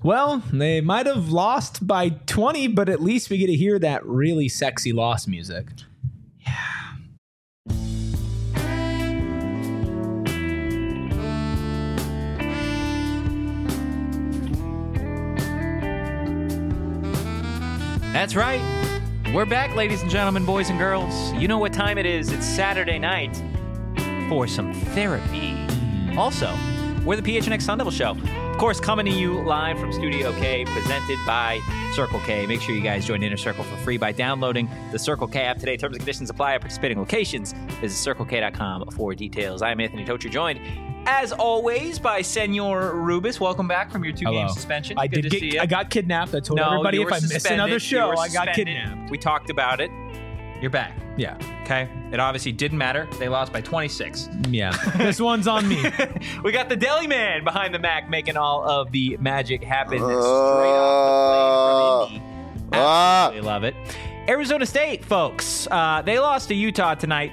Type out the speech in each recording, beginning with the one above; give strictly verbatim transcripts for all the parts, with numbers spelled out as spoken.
Well, they might have lost by twenty, but at least we get to hear that really sexy loss music. That's right. We're back, ladies and gentlemen, boys and girls. You know what time it is. It's Saturday night for some therapy. Also, we're the P H N X Sun Devil Show. Of course, coming to you live from Studio K, presented by Circle K. Make sure you guys join Inner Circle for free by downloading the Circle K app today. Terms and conditions apply at participating locations. Visit circle k dot com for details. I'm Anthony Tocher, joined, as always, by Senor Rubis. Welcome back from your two-game Hello. suspension. I Good did to get, see you. I got kidnapped. I told no, everybody you if were I miss suspended. another You show, were I got suspended. kidnapped. We talked about it. You're back. Yeah. Okay? It obviously didn't matter. They lost by twenty-six. Yeah. This one's on me. We got the deli man behind the Mac making all of the magic happen Uh, straight off the plane from Indy. Ah. Absolutely love it. Arizona State, folks, uh, they lost to Utah tonight,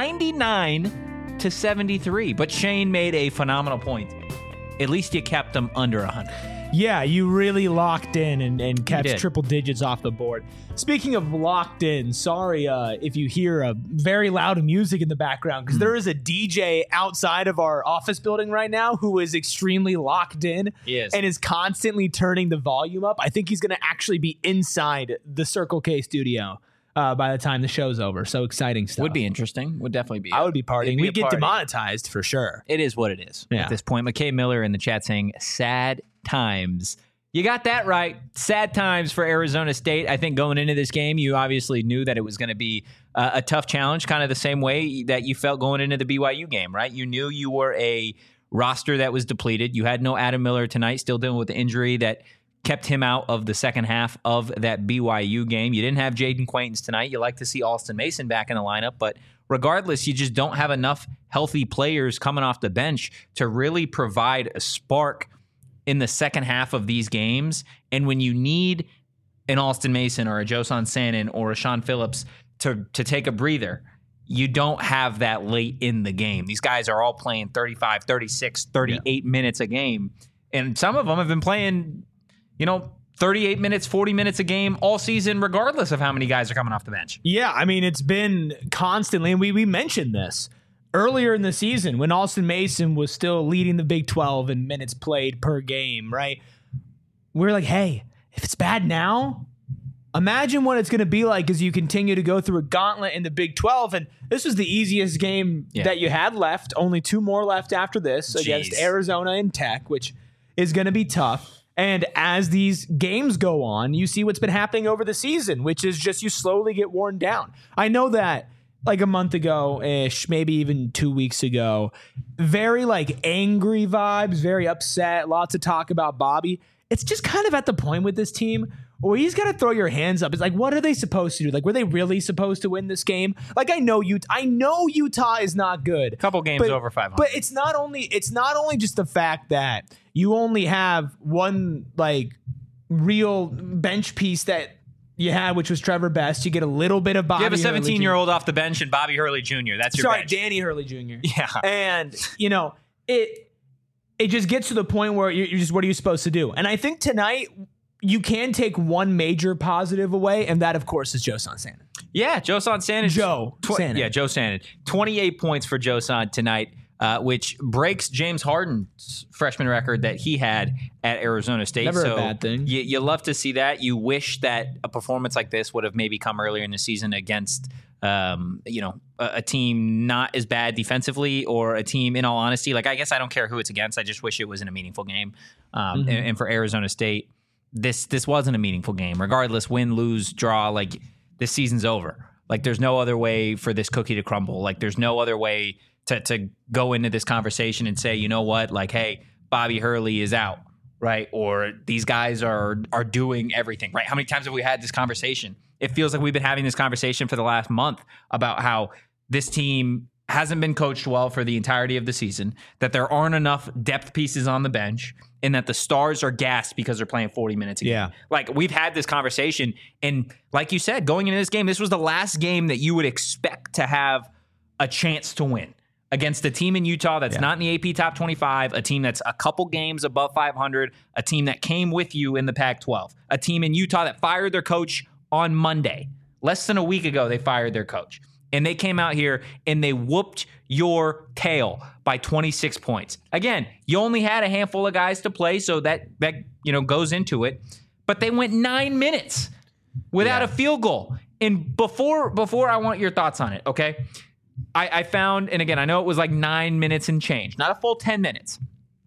ninety-nine to seventy-three. But Shane made a phenomenal point. At least you kept them under one hundred. Yeah, you really locked in and, and kept did. triple digits off the board. Speaking of locked in, sorry uh, if you hear a very loud music in the background, because there is a D J outside of our office building right now who is extremely locked in Yes. and is constantly turning the volume up. I think he's going to actually be inside the Circle K studio uh, by the time the show's over. So exciting stuff. Would be interesting. Would definitely be. I would be partying. It'd be We a get party. demonetized for sure. It is what it is Yeah. at this point. McKay Miller in the chat saying, sad times. You got that right. Sad times for Arizona State. I think going into this game, you obviously knew that it was going to be uh, a tough challenge, kind of the same way that you felt going into the B Y U game, right? You knew you were a roster that was depleted. You had no Adam Miller tonight, still dealing with the injury that kept him out of the second half of that B Y U game. You didn't have Jaden Quaintance tonight. You like to see Alston Mason back in the lineup, but regardless, you just don't have enough healthy players coming off the bench to really provide a spark in the second half of these games. And when you need an Alston Mason or a Josan Sannon or a Sean Phillips to, to take a breather, you don't have that late in the game. These guys are all playing thirty-five, thirty-six, thirty-eight yeah. minutes a game. And some of them have been playing, you know, thirty-eight minutes, forty minutes a game all season, regardless of how many guys are coming off the bench. Yeah, I mean, it's been constantly, and we, we mentioned this earlier in the season when Alston Mason was still leading the Big twelve in minutes played per game, right? We're like, hey, if it's bad now, imagine what it's going to be like as you continue to go through a gauntlet in the Big twelve. And this was the easiest game yeah. that you had left. Only two more left after this Jeez. against Arizona and Tech, which is going to be tough. And as these games go on, you see what's been happening over the season, which is just you slowly get worn down. I know that like a month ago-ish, maybe even two weeks ago, very like angry vibes, very upset, lots of talk about Bobby. It's just kind of at the point with this team where you just got to throw your hands up. It's like, what are they supposed to do? Like, were they really supposed to win this game? Like, I know Utah, I know Utah is not good. A couple games but, over five hundred. But it's not only it's not only just the fact that you only have one like real bench piece that you had, which was Trevor Best. You get a little bit of Bobby. You have a seventeen-year-old off the bench and Bobby Hurley Junior That's your Sorry, bench. Danny Hurley Junior Yeah. And, you know, it it just gets to the point where you're, you're just, what are you supposed to do? And I think tonight you can take one major positive away, and that, of course, is Josan Sannon. Yeah, Josan Sannon. Joe tw- Sannon. Yeah, Joe Sannon. twenty-eight points for Josan tonight. Uh, which breaks James Harden's freshman record that he had at Arizona State. Never so a bad thing. You, you love to see that. You wish that a performance like this would have maybe come earlier in the season against, um, you know, a, a team not as bad defensively, or a team, in all honesty, like I guess I don't care who it's against. I just wish it was in a meaningful game. Um, Mm-hmm. and, and for Arizona State, this this wasn't a meaningful game. Regardless, win, lose, draw, like this season's over. Like there's no other way for this cookie to crumble. Like there's no other way to to go into this conversation and say, you know what, like, hey, Bobby Hurley is out, right? Or these guys are are doing everything, right? How many times have we had this conversation? It feels like we've been having this conversation for the last month about how this team hasn't been coached well for the entirety of the season, that there aren't enough depth pieces on the bench, and that the stars are gassed because they're playing forty minutes a game. Yeah. Like, we've had this conversation, and like you said, going into this game, this was the last game that you would expect to have a chance to win against a team in Utah that's Yeah. not in the A P top twenty-five, a team that's a couple games above five hundred, a team that came with you in the Pac twelve, a team in Utah that fired their coach on Monday. Less than a week ago, they fired their coach. And they came out here and they whooped your tail by twenty-six points. Again, you only had a handful of guys to play, so that, that you know goes into it. But they went nine minutes without Yeah. a field goal. And before before I want your thoughts on it, okay? I, I found, and again, I know it was like nine minutes and change, not a full ten minutes.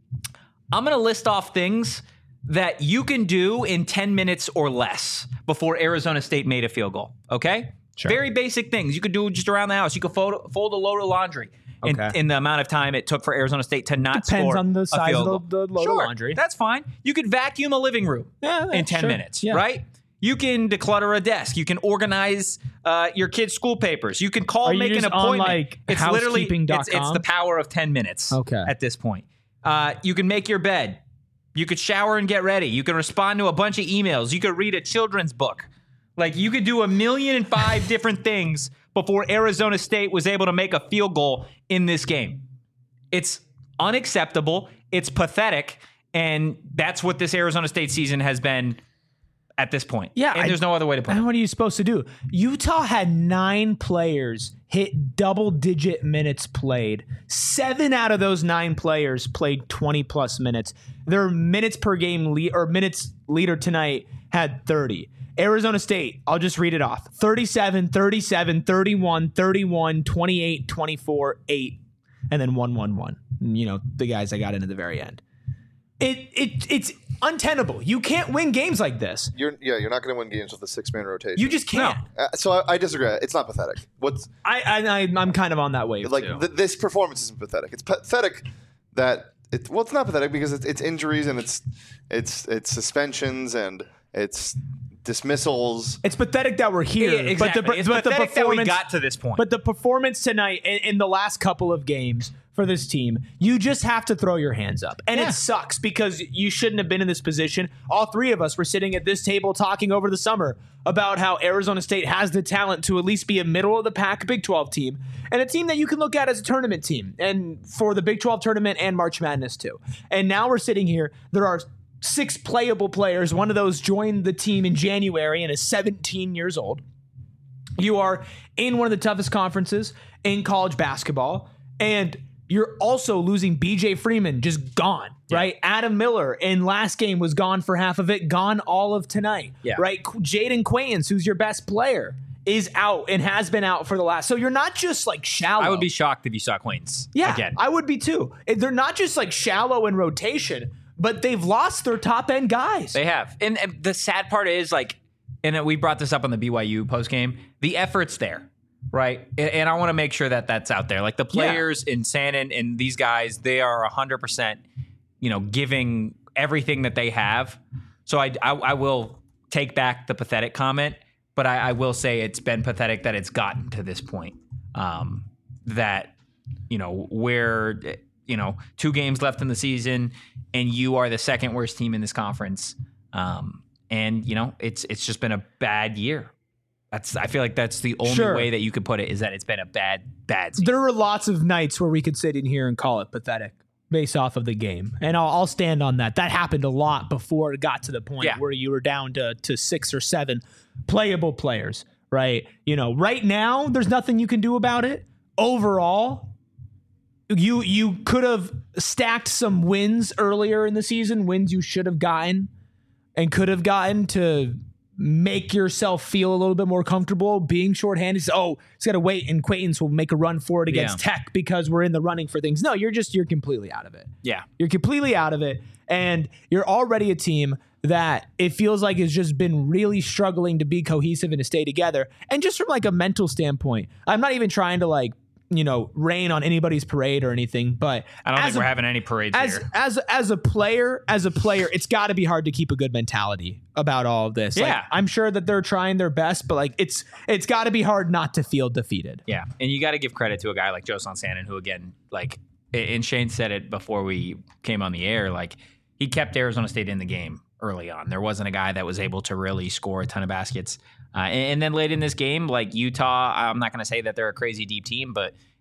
I'm going to list off things that you can do in ten minutes or less before Arizona State made a field goal, okay? Sure. Very basic things. You could do just around the house. You could fold, fold a load of laundry in, Okay. in the amount of time it took for Arizona State to not Depends score on the a size field of the- goal. the load of Sure, laundry. that's fine. You could vacuum a living room Yeah, in ten sure. minutes, Yeah. right? You can declutter a desk. You can organize uh, your kids' school papers. You can call, Are and you make an just on, appointment. like, it's literally housekeeping dot it's, it's com? the power of ten minutes. Okay. At this point, uh, you can make your bed. You could shower and get ready. You can respond to a bunch of emails. You could read a children's book. Like you could do a million and five different things before Arizona State was able to make a field goal in this game. It's unacceptable. It's pathetic. And that's what this Arizona State season has been at this point. Yeah, And I- there's no other way to put And it. what are you supposed to do? Utah had nine players hit double digit minutes played. Seven out of those nine players played twenty plus minutes. Their minutes per game lead or minutes leader tonight had thirty. Arizona State, I'll just read it off. thirty-seven, thirty-seven, thirty-one, thirty-one, twenty-eight, twenty-four, eight, and then one, one, one. You know, the guys I got in at the very end. It it it's untenable. You can't win games like this. You're yeah, you're not going to win games with a six man rotation. You just can't. Uh, so I, I disagree. It's not pathetic. What's I, I I- I'm kind of on that wave like too. th- this performance isn't pathetic. It's pathetic that it. Well, it's not pathetic because it's, it's injuries and it's it's it's suspensions and it's dismissals. It's pathetic that we're here, Yeah, exactly. but the it's but the pathetic that we performance got to this point. but the performance tonight in, in the last couple of games for this team, you just have to throw your hands up, and Yeah. it sucks because you shouldn't have been in this position. All three of us were sitting at this table talking over the summer about how Arizona State has the talent to at least be a middle of the pack Big twelve team and a team that you can look at as a tournament team, and for the Big twelve tournament and March Madness too. And now we're sitting here. There are six playable players. One of those joined the team in January and is seventeen years old. You are in one of the toughest conferences in college basketball, and you're also losing B J Freeman, just gone, right? Adam Miller in last game was gone for half of it, gone all of tonight, Yeah. right? Jaden Quayens, who's your best player, is out and has been out for the last. So you're not just like shallow. I would be shocked if you saw Queens Yeah, again. I would be too. They're not just like shallow in rotation, but they've lost their top end guys. They have. And, and the sad part is, like, and we brought this up on the B Y U postgame, the effort's there, right? And, and I want to make sure that that's out there. Like, the players in Sannon and these guys, they are one hundred percent, you know, giving everything that they have. So I, I, I will take back the pathetic comment, but I, I will say it's been pathetic that it's gotten to this point. Um, that, you know, where, you know, two games left in the season and you are the second worst team in this conference. Um, and, you know, it's it's just been a bad year. That's I feel like that's the only Sure. way that you could put it, is that it's been a bad, bad season. There were lots of nights where we could sit in here and call it pathetic based off of the game. And I'll, I'll stand on that. That happened a lot before it got to the point Yeah. where you were down to, to six or seven playable players, right? You know, right now, there's nothing you can do about it. Overall, you you could have stacked some wins earlier in the season, wins you should have gotten and could have gotten to make yourself feel a little bit more comfortable being shorthanded. So, oh, it's got to wait, and Quayens will make a run for it against Yeah. Tech because we're in the running for things. No, you're just, you're completely out of it. Yeah. You're completely out of it, and you're already a team that it feels like has just been really struggling to be cohesive and to stay together. And just from like a mental standpoint, I'm not even trying to like, you know, rain on anybody's parade or anything, but I don't as think a- we're having any parades as here. as as a player, as a player, it's got to be hard to keep a good mentality about all of this. Like, Yeah. I'm sure that they're trying their best, but like it's it's got to be hard not to feel defeated. Yeah, and you got to give credit to a guy like Josan Sannon, who, again, like, and Shane said it before we came on the air, like, he kept Arizona State in the game early on. There wasn't a guy that was able to really score a ton of baskets. Uh, and, and then late in this game, like Utah, I'm not going to say that they're a crazy deep team, but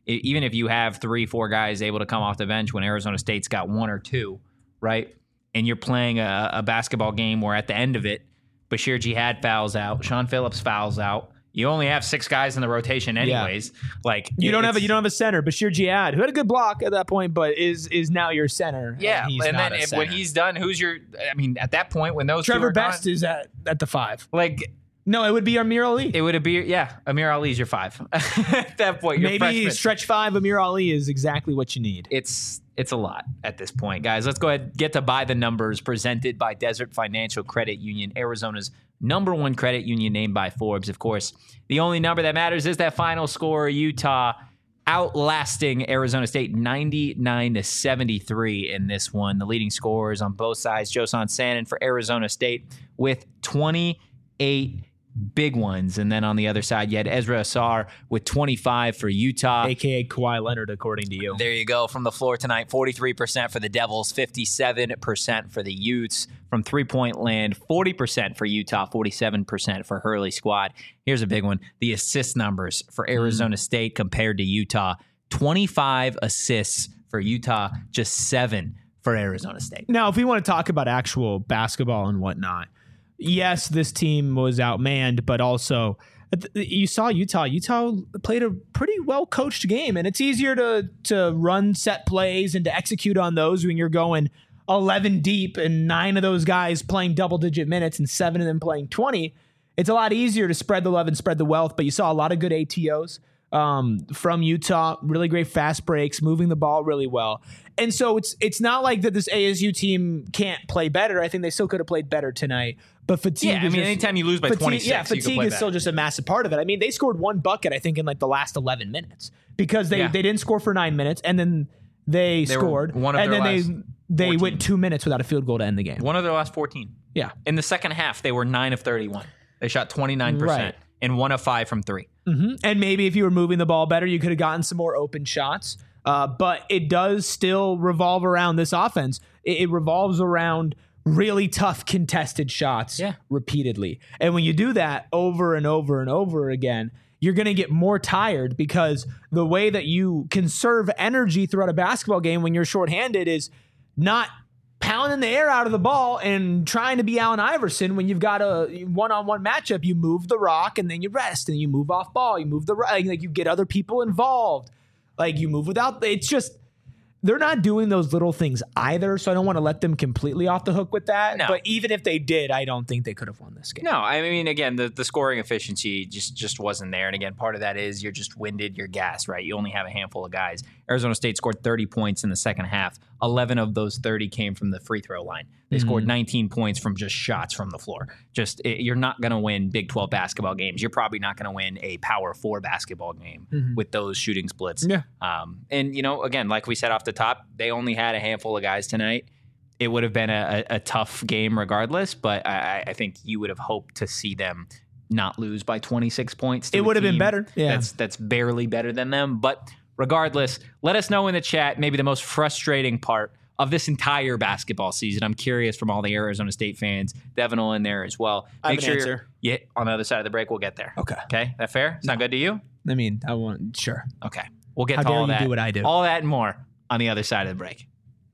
e- even if you have three, four guys able to come off the bench when Arizona State's got one or two, right? And you're playing a, a basketball game where at the end of it, Bashir Jihad fouls out, Sean Phillips fouls out. You only have six guys in the rotation anyways. Yeah. Like you don't have a you don't have a center, Bashir Jihad, who had a good block at that point, but is is now your center. Yeah, and, he's and not then a if, center. when he's done, who's your? I mean, at that point, when those Trevor two are Best gone, is at at the five. Like, no, it would be Amir Ali. It would be yeah, Amir Ali's your five. At that point, your maybe freshman. stretch five. Amir Ali is exactly what you need. It's it's a lot at this point, guys. Let's go ahead and get to By the Numbers, presented by Desert Financial Credit Union, Arizona's number one credit union, named by Forbes. Of course, the only number that matters is that final score. Utah outlasting Arizona State ninety-nine to seventy-three in this one. The leading scorers on both sides, Josan Sanin for Arizona State with twenty-eight big ones. And then on the other side, you had Ezra Asar with twenty-five for Utah. A K A Kawhi Leonard, according to you. There you go. From the floor tonight, forty-three percent for the Devils, fifty-seven percent for the Utes. From three-point land, forty percent for Utah, forty-seven percent for Hurley squad. Here's a big one. The assist numbers for Arizona mm. State compared to Utah. twenty-five assists for Utah, just seven for Arizona State. Now, if we want to talk about actual basketball and whatnot, yes, this team was outmanned, but also you saw Utah. Utah played a pretty well-coached game, and it's easier to to run set plays and to execute on those when you're going eleven deep and nine of those guys playing double-digit minutes and seven of them playing twenty. It's a lot easier to spread the love and spread the wealth, but you saw a lot of good A T Os um, from Utah, really great fast breaks, moving the ball really well. And so it's it's not like that this A S U team can't play better. I think they still could have played better tonight. But fatigue Yeah, I is mean, just, anytime you lose by fatigue, twenty-six, yeah, you can fatigue play is still better. just a massive part of it. I mean, they scored one bucket, I think, in like the last eleven minutes because they, Yeah. they didn't score for nine minutes, and then they, They were scored, one of and their then last they they fourteen. went two minutes without a field goal to end the game. One of their last fourteen. Yeah. In the second half, they were nine of thirty-one. They shot twenty-nine percent Right. and one of five from three. Mm-hmm. And maybe if you were moving the ball better, you could have gotten some more open shots. Uh, but it does still revolve around this offense. It, it revolves around really tough contested shots Yeah. repeatedly. And when you do that over and over and over again, you're going to get more tired because the way that you conserve energy throughout a basketball game when you're shorthanded is not pounding the air out of the ball and trying to be Allen Iverson. When you've got a one-on-one matchup, you move the rock and then you rest and you move off ball. You move the rock, like you get other people involved. Like you move without, it's just, they're not doing those little things either. So I don't want to let them completely off the hook with that. No. But even if they did, I don't think they could have won this game. No, I mean, again, the, the scoring efficiency just, just wasn't there. And again, part of that is you're just winded, you're gassed, right? You only have a handful of guys. Arizona State scored thirty points in the second half. eleven of those thirty came from the free throw line. They Mm-hmm. scored nineteen points from just shots from the floor. Just it, you're not going to win Big twelve basketball games. You're probably not going to win a Power Four basketball game Mhm. with those shooting splits. Yeah. Um, and, you know, again, like we said off the top, they only had a handful of guys tonight. It would have been a, a, a tough game regardless, but I, I think you would have hoped to see them not lose by twenty-six points. to It a would have been team better. Yeah. That's that's barely better than them. But regardless, let us know in the chat maybe the most frustrating part of this entire basketball season. I'm curious from all the Arizona State fans. Devin will in there as well. I have Make an sure you're- answer. Yeah, on the other side of the break, we'll get there. Okay. Okay, that fair? Sound good to you? I mean, I want, sure. Okay, we'll get How to dare all you that. do what I do. All that and more on the other side of the break.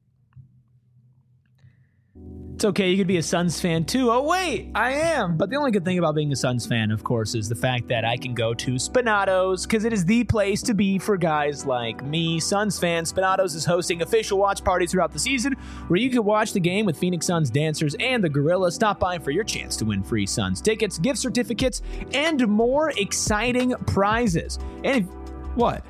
It's okay. You could be a Suns fan too. Oh, wait, I am. But the only good thing about being a Suns fan, of course, is the fact that I can go to Spinatos because it is the place to be for guys like me, Suns fans. Spinatos is hosting official watch parties throughout the season where you can watch the game with Phoenix Suns dancers and the Gorillas. Stop by for your chance to win free Suns tickets, gift certificates, and more exciting prizes. And if, what?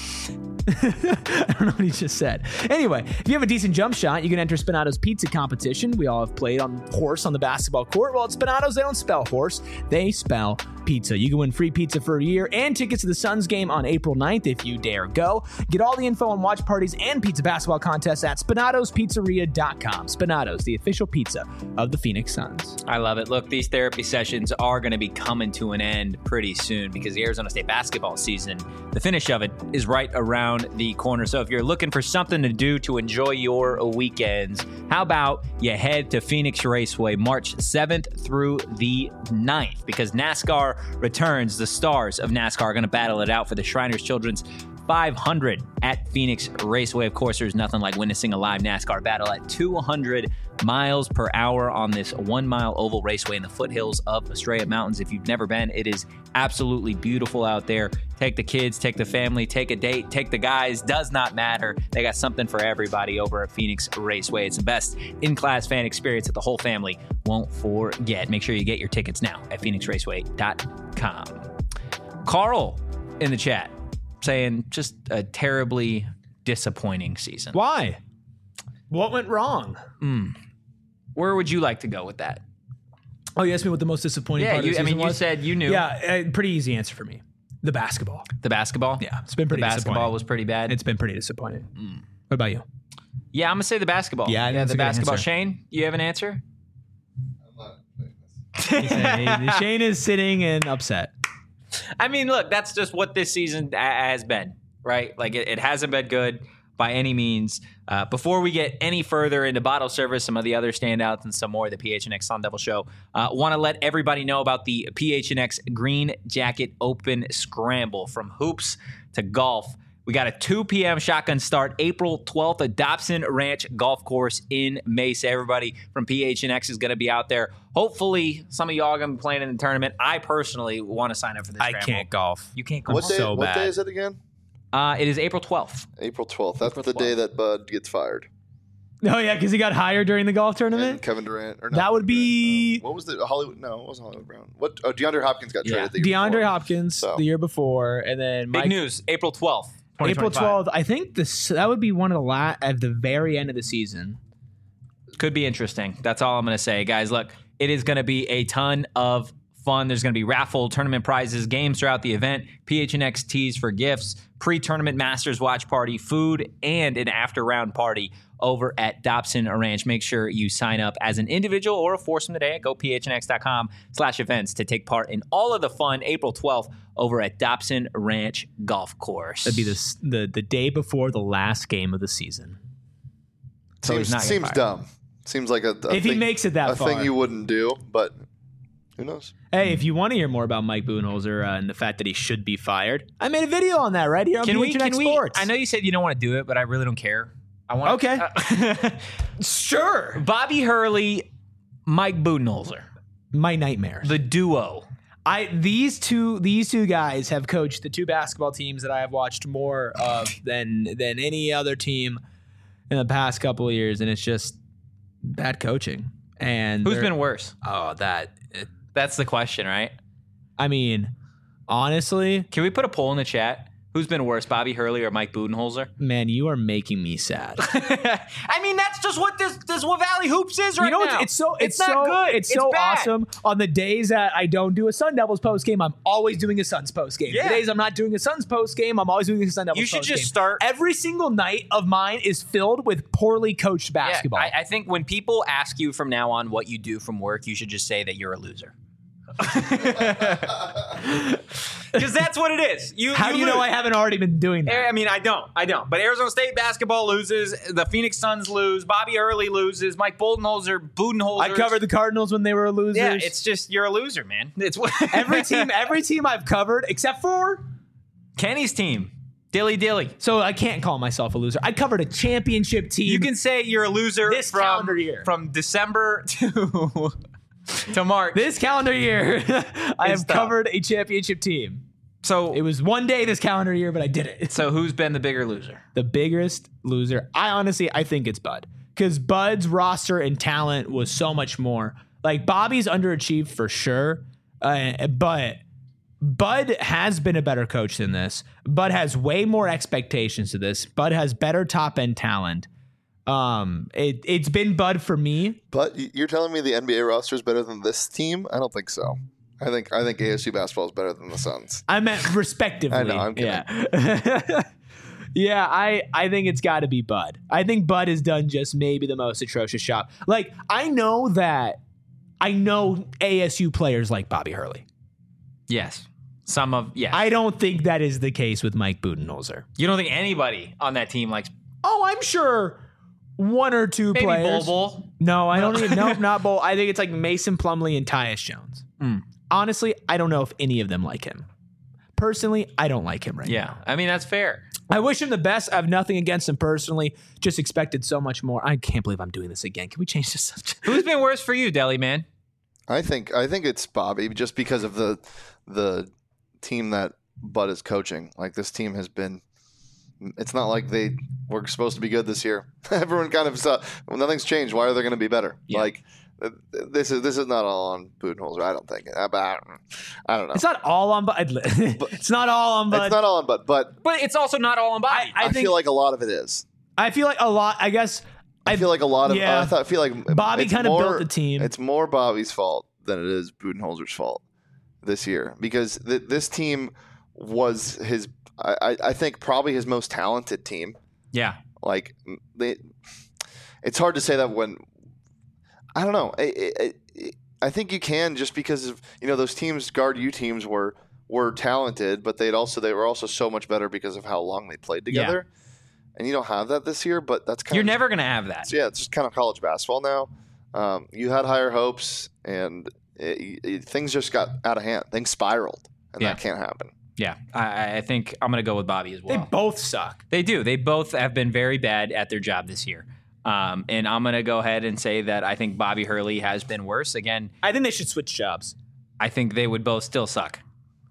I don't know what he just said. Anyway, if you have a decent jump shot, you can enter Spinato's pizza competition. We all have played on horse on the basketball court. Well, at Spinato's, they don't spell horse, they spell pizza. You can win free pizza for a year and tickets to the Suns game on April ninth if you dare go. Get all the info on watch parties and pizza basketball contests at spinatos pizzeria dot com. Spinatos, the official pizza of the Phoenix Suns. I love it. Look, these therapy sessions are going to be coming to an end pretty soon because the Arizona State basketball season, the finish of it is right around the corner. So if you're looking for something to do to enjoy your weekends, how about you head to Phoenix Raceway March seventh through the ninth because NASCAR returns. The stars of NASCAR are going to battle it out for the Shriners Children's five hundred at Phoenix Raceway. Of course, there's nothing like witnessing a live NASCAR battle at two hundred miles per hour on this one-mile oval raceway in the foothills of Estrella Mountains. If you've never been, it is absolutely beautiful out there. Take the kids, take the family, take a date, take the guys. Does not matter. They got something for everybody over at Phoenix Raceway. It's the best in-class fan experience that the whole family won't forget. Make sure you get your tickets now at phoenix raceway dot com. Carl in the chat saying just a terribly disappointing season. Why? What went wrong? Mm. Where would you like to go with that? Oh, you asked me what the most disappointing Yeah, part you, of the I season mean, was? you said you knew. Yeah, uh, pretty easy answer for me. The basketball. The basketball? Yeah, it's been pretty The basketball disappointing. was pretty bad. It's been pretty disappointing. Mm. What about you? Yeah, I'm going to say the basketball. Yeah, I think yeah that's the a good basketball. answer. Shane, you have an answer? He said, Shane is sitting and upset. I mean, look, that's just what this season a- has been, right? Like, it, it hasn't been good by any means. Uh, before we get any further into bottle service, some of the other standouts and some more of the P H N X Sun Devil Show, uh, want to let everybody know about the P H N X Green Jacket Open Scramble. From hoops to golf, we got a two p.m. shotgun start April twelfth at Dobson Ranch Golf Course in Mesa. Everybody from P H N X is going to be out there. Hopefully, some of y'all are going to be playing in the tournament. I personally want to sign up for this I scramble. can't golf. You can't golf. What day? so what bad. day is it again? Uh, it is April twelfth. April twelfth. That's April the day twelfth. that Bud gets fired. Oh, yeah, because he got hired during the golf And tournament? Kevin Durant. Or not That would Kevin be- Durant, no. What was the Hollywood? No, it wasn't Hollywood Brown. What? Oh, DeAndre Hopkins got Yeah. traded. The year DeAndre before. Hopkins So. the year before, and then Big Mike, news, April twelfth. April twelfth. I think this that would be one of the la- at the very end of the season. Could be interesting. That's all I'm going to say. Guys, look, it is going to be a ton of fun. There's going to be raffle, tournament prizes, games throughout the event, P H N X tees for gifts, pre-tournament Masters watch party, food, and an after-round party over at Dobson Ranch. Make sure you sign up as an individual or a foursome today at go p h n x dot com slash events to take part in all of the fun April twelfth over at Dobson Ranch Golf Course. That'd be the s- the the day before the last game of the season. So he's Seems, not getting seems fired. dumb. Seems like a, a If he thing, makes it that a far. thing you wouldn't do, but who knows? Hey, if you want to hear more about Mike Budenholzer uh, and the fact that he should be fired, I made a video on that right here on Can we, P H N X can we, Sports. I know you said you don't want to do it, but I really don't care. I want Okay. Uh, Sure. Bobby Hurley, Mike Budenholzer, My nightmares. the duo. I these two these two guys have coached the two basketball teams that I have watched more of than than any other team in the past couple of years, and it's just bad coaching. And Who's they're- been worse? oh that it, That's the question, right? I mean, honestly, Can we put a poll in the chat? Who's been worse, Bobby Hurley or Mike Budenholzer? man, you are making me sad. I mean, that's just what this this what Valley Hoops is right you know, now. it's, it's so it's, not so good. it's so bad. awesome. On the days that I don't do a Sun Devils post game, I'm always doing a Suns post game. Yeah. The days I'm not doing a Suns post game, I'm always doing a Sun Devils. You should post just game. start- Every single night of mine is filled with poorly coached Yeah, basketball. I, I think when people ask you from now on what you do from work, you should just say that you're a loser. Because that's what it is. You, How do you know lose. I haven't already been doing that? I mean, I don't. I don't. But Arizona State basketball loses. The Phoenix Suns lose. Bobby Hurley loses. Mike Budenholzer, Budenholzer. I covered the Cardinals when they were losers. Yeah, it's just you're a loser, man. It's what every team. Every team I've covered, except for Kenny's team. Dilly dilly. so I can't call myself a loser. I covered a championship team. You can say you're a loser This from, calendar year. from December to to March. this calendar year, I It's have tough. covered a championship team. so It was one day this calendar year, but I did it. so who's been the bigger loser? The biggest loser. I honestly, I think it's Bud, because Bud's roster and talent was so much more. Like Bobby's underachieved for sure, uh, but Bud has been a better coach than this. Bud has way more expectations to this. Bud has better top end talent. Um, it it's been Bud for me. But y- you're telling me the N B A roster is better than this team? I don't think so. I think I think A S U basketball is better than the Suns. I meant respectively. I know, I'm kidding. Yeah. Yeah, I, I think it's got to be Bud. I think Bud has done just maybe the most atrocious job. Like, I know that I know A S U players like Bobby Hurley. Yes. Some of yes. I don't think that is the case with Mike Budenholzer. you don't think anybody on that team likes Oh, I'm sure one or two maybe players. Bol Bol? No, I don't even. Nope, not Bull. I think it's like Mason Plumlee and Tyus Jones. Mm. Honestly, I don't know if any of them like him. Personally, I don't like him right Yeah. now. I mean that's fair. I wish him the best. I have nothing against him personally. Just expected so much more. I can't believe I'm doing this again. Can we change the subject? Who's been worse for you, Deli Man? I think I think it's Bobby just because of the the team that Bud is coaching. Like this team has been. It's not like they were supposed to be good this year. Everyone kind of saw well, nothing's changed. Why are they going to be better? Yeah. Like this is this is not all on Budenholzer. I don't think. I, I don't know. It's not all on Bud. It's not all on Bud. It's not all on Bud, but But it's also not all on Bobby. I, I, I think feel like a lot of it is. I feel like a lot. I guess I, feel like a lot of. yeah. I, thought, I feel like Bobby it's kind of more- built the team. It's more Bobby's fault than it is Budenholzer's fault this year because th- this team was his. I, I- I think probably his most talented team. yeah. Like they, it's hard to say that when I don't know. I, I, I think you can just because of you know those teams guard U teams were were talented, but they'd also they were also so much better because of how long they played together. And you don't have that this year, but that's kind You're of never going to have that. yeah, it's just kind of college basketball now. Um, you had higher hopes, and it, it, things just got out of hand. Things spiraled, and Yeah. that can't happen. Yeah. I, I think I'm going to go with Bobby as they well. both suck. They do. They both have been very bad at their job this year. Um, and I'm going to go ahead and say that I think Bobby Hurley has been worse. Again, I think they should switch jobs. I think they would both still suck.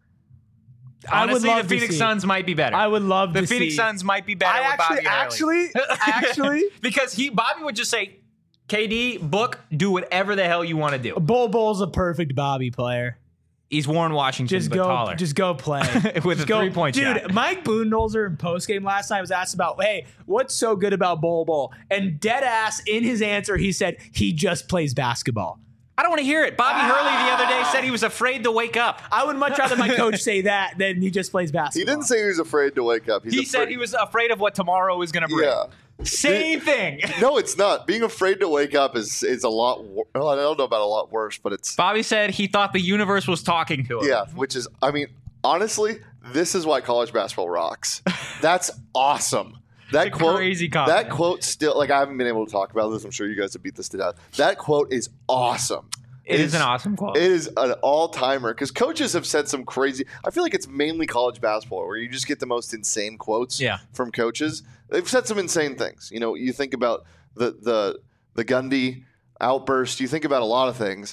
I would Honestly, love the to Phoenix see. Suns might be better. I would love the to Phoenix see. Suns might be better I with actually, Bobby Hurley. actually, actually, because he Bobby would just say, K D, book, do whatever the hell you want to do. Bull Bull's a perfect Bobby player. He's Warren Washington, Just but go, taller. just go play With Just a go- three-point dude, shot. Mike Budenholzer in postgame last night was asked about, hey, what's so good about Bull Bull? And dead ass in his answer, he said he just plays basketball. I don't want to hear it. Bobby Hurley the other day said he was afraid to wake up. I would much rather my coach say that than he just plays He basketball. didn't say he was afraid to wake up. He's He afraid- said he was afraid of what tomorrow was going to bring. Yeah. Same thing. No, it's not. Being afraid to wake up is is a lot. Wor- well, I don't know about a lot worse, but it's Bobby said he thought the universe was talking to him. yeah. Which is, I mean, honestly, this is why college basketball rocks. That's awesome. That It's a quote, crazy compliment. that quote still like I haven't been able to talk about this. I'm sure you guys have beat this to death. That quote is awesome. It is It's- an awesome quote. It is an all timer because coaches have said some crazy. I feel like it's mainly college basketball where you just get the most insane quotes Yeah. from coaches. They've said some insane things. You know, you think about the the the Gundy outburst. You think about a lot of things.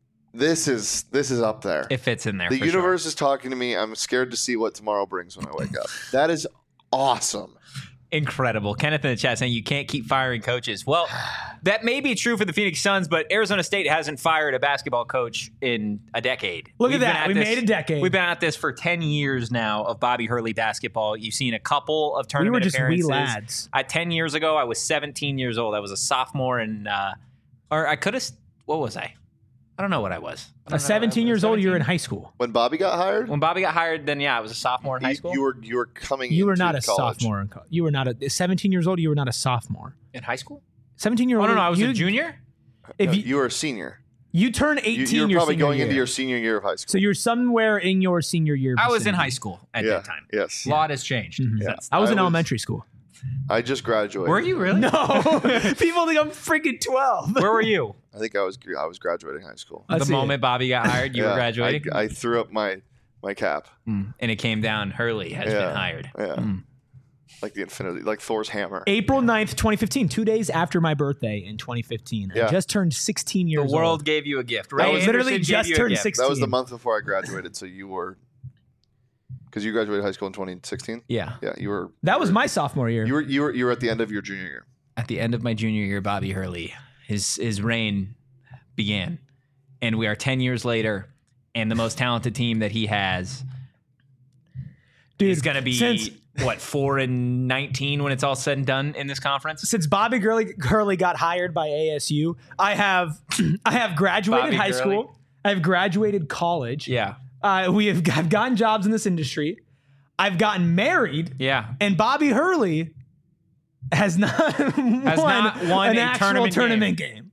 This is this is up there. It fits in there. The for universe is talking to me. I'm scared to see what tomorrow brings when I wake up. That is awesome. Sure. Incredible. Kenneth in the chat saying you can't keep firing coaches. Well, that may be true for the Phoenix Suns, but Arizona State hasn't fired a basketball coach in a decade. Look We've at been that. We this- made a decade. We've been at this for ten years now of Bobby Hurley basketball. You've seen a couple of we tournament were just wee appearances. lads. I, ten years ago, I was seventeen years old. I was a sophomore, and uh, or I could have. What was I? I don't know what I was. I don't know. At seventeen years old, you were in seventeen? high school. When Bobby got hired, When Bobby got hired, then yeah, I was a sophomore in high you, school. you were you were coming. You were into not a college. sophomore. In co- you were not a seventeen years old. You were not a sophomore. in high school? seventeen year Oh old. no, no, I was you, a junior. If No, you, you were a senior. you turn You, eighteen, you were your probably senior going year. into your senior year of high school. So you're somewhere in your senior year. I was in vicinity. high school at yeah. that time. Yes. A lot has changed. Mhm. since- I was I in was- elementary school. I just graduated. Were you really? No, people think I'm freaking twelve. Where were you? I think I was I was graduating high school. I the see it. moment Bobby got hired, you Yeah, were graduating, I, I threw up my my cap. Mm. and it came down. Hurley has Yeah. been hired. Yeah. Mm. Like the infinity, like Thor's hammer. April ninth, twenty fifteen, two days after my birthday in twenty fifteen. I Yeah. just turned sixteen The years world old. gave you a gift. I Ray was literally Anderson gave just you a turned gift. sixteen. That was the month before I graduated, so you were because you graduated high school in twenty sixteen. Yeah. Yeah, you were. That you was were- my sophomore year. You were you were you were at the end of your junior year. At the end of my junior year, Bobby Hurley, his his reign began, and we are ten years later, and the most talented team that he has Dude, is going to be since, what four and nineteen when it's all said and done in this conference. since Bobby Gurley, Hurley got hired by A S U. I have I have graduated Bobby high Gurley? school. I've graduated college. Yeah, Uh, we have I've gotten jobs in this industry. I've gotten married, yeah. and Bobby Hurley has not won, not won an a actual tournament tournament game.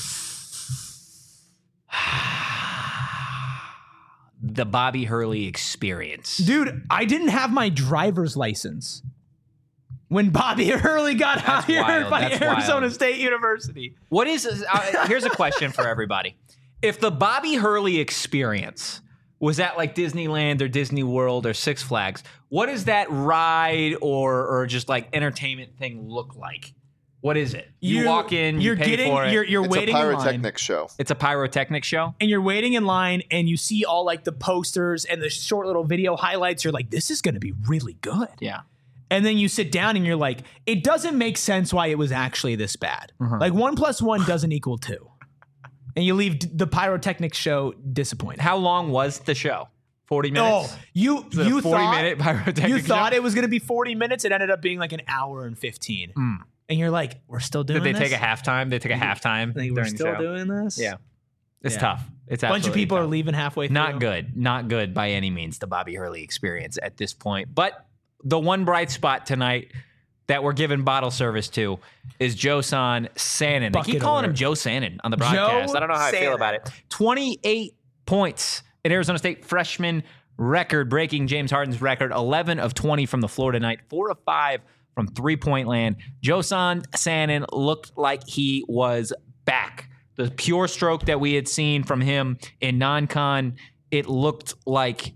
The Bobby Hurley experience. Dude, I didn't have my driver's license when Bobby Hurley got That's hired wild. by That's Arizona wild. State University. What is uh, here's a question for everybody. If the Bobby Hurley experience was at like Disneyland or Disney World or Six Flags, what does that ride or or just like entertainment thing look like? What is it? You, you walk in, you you're pay getting, for it. You're, you're it's waiting a in line. pyrotechnic show. It's a pyrotechnic show? And you're waiting in line and you see all like the posters and the short little video highlights. You're like, this is going to be really good. Yeah. And then you sit down and you're like, it doesn't make sense why it was actually this bad. Uh-huh. Like one plus one doesn't equal two. And you leave d- the pyrotechnic show disappointed. How long was the show? forty minutes? Oh, you Is it a you forty thought minute pyrotechnic you thought show? it was going to be forty minutes. It ended up being like an hour and fifteen. Mm. And you're like, we're still doing Did they this? take a halftime? They took a halftime Like, we're during the still show? doing this? Yeah. It's Yeah. tough. It's A bunch of absolutely people tough. are leaving halfway through. Not good. Not good by any means, the Bobby Hurley experience at this point. But the one bright spot tonight that we're giving bottle service to is Josan Sannon. They keep Bucket calling him alert. Joe Sannon on the broadcast. Joe I don't know how I feel Sannon. about it. twenty-eight points in Arizona State freshman record, breaking James Harden's record. eleven of twenty from the floor tonight. four of five from three-point land. Josan Sannon looked like he was back. The pure stroke that we had seen from him in non-con, it looked like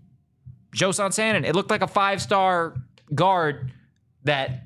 Josan Sannon. It looked like a five-star guard that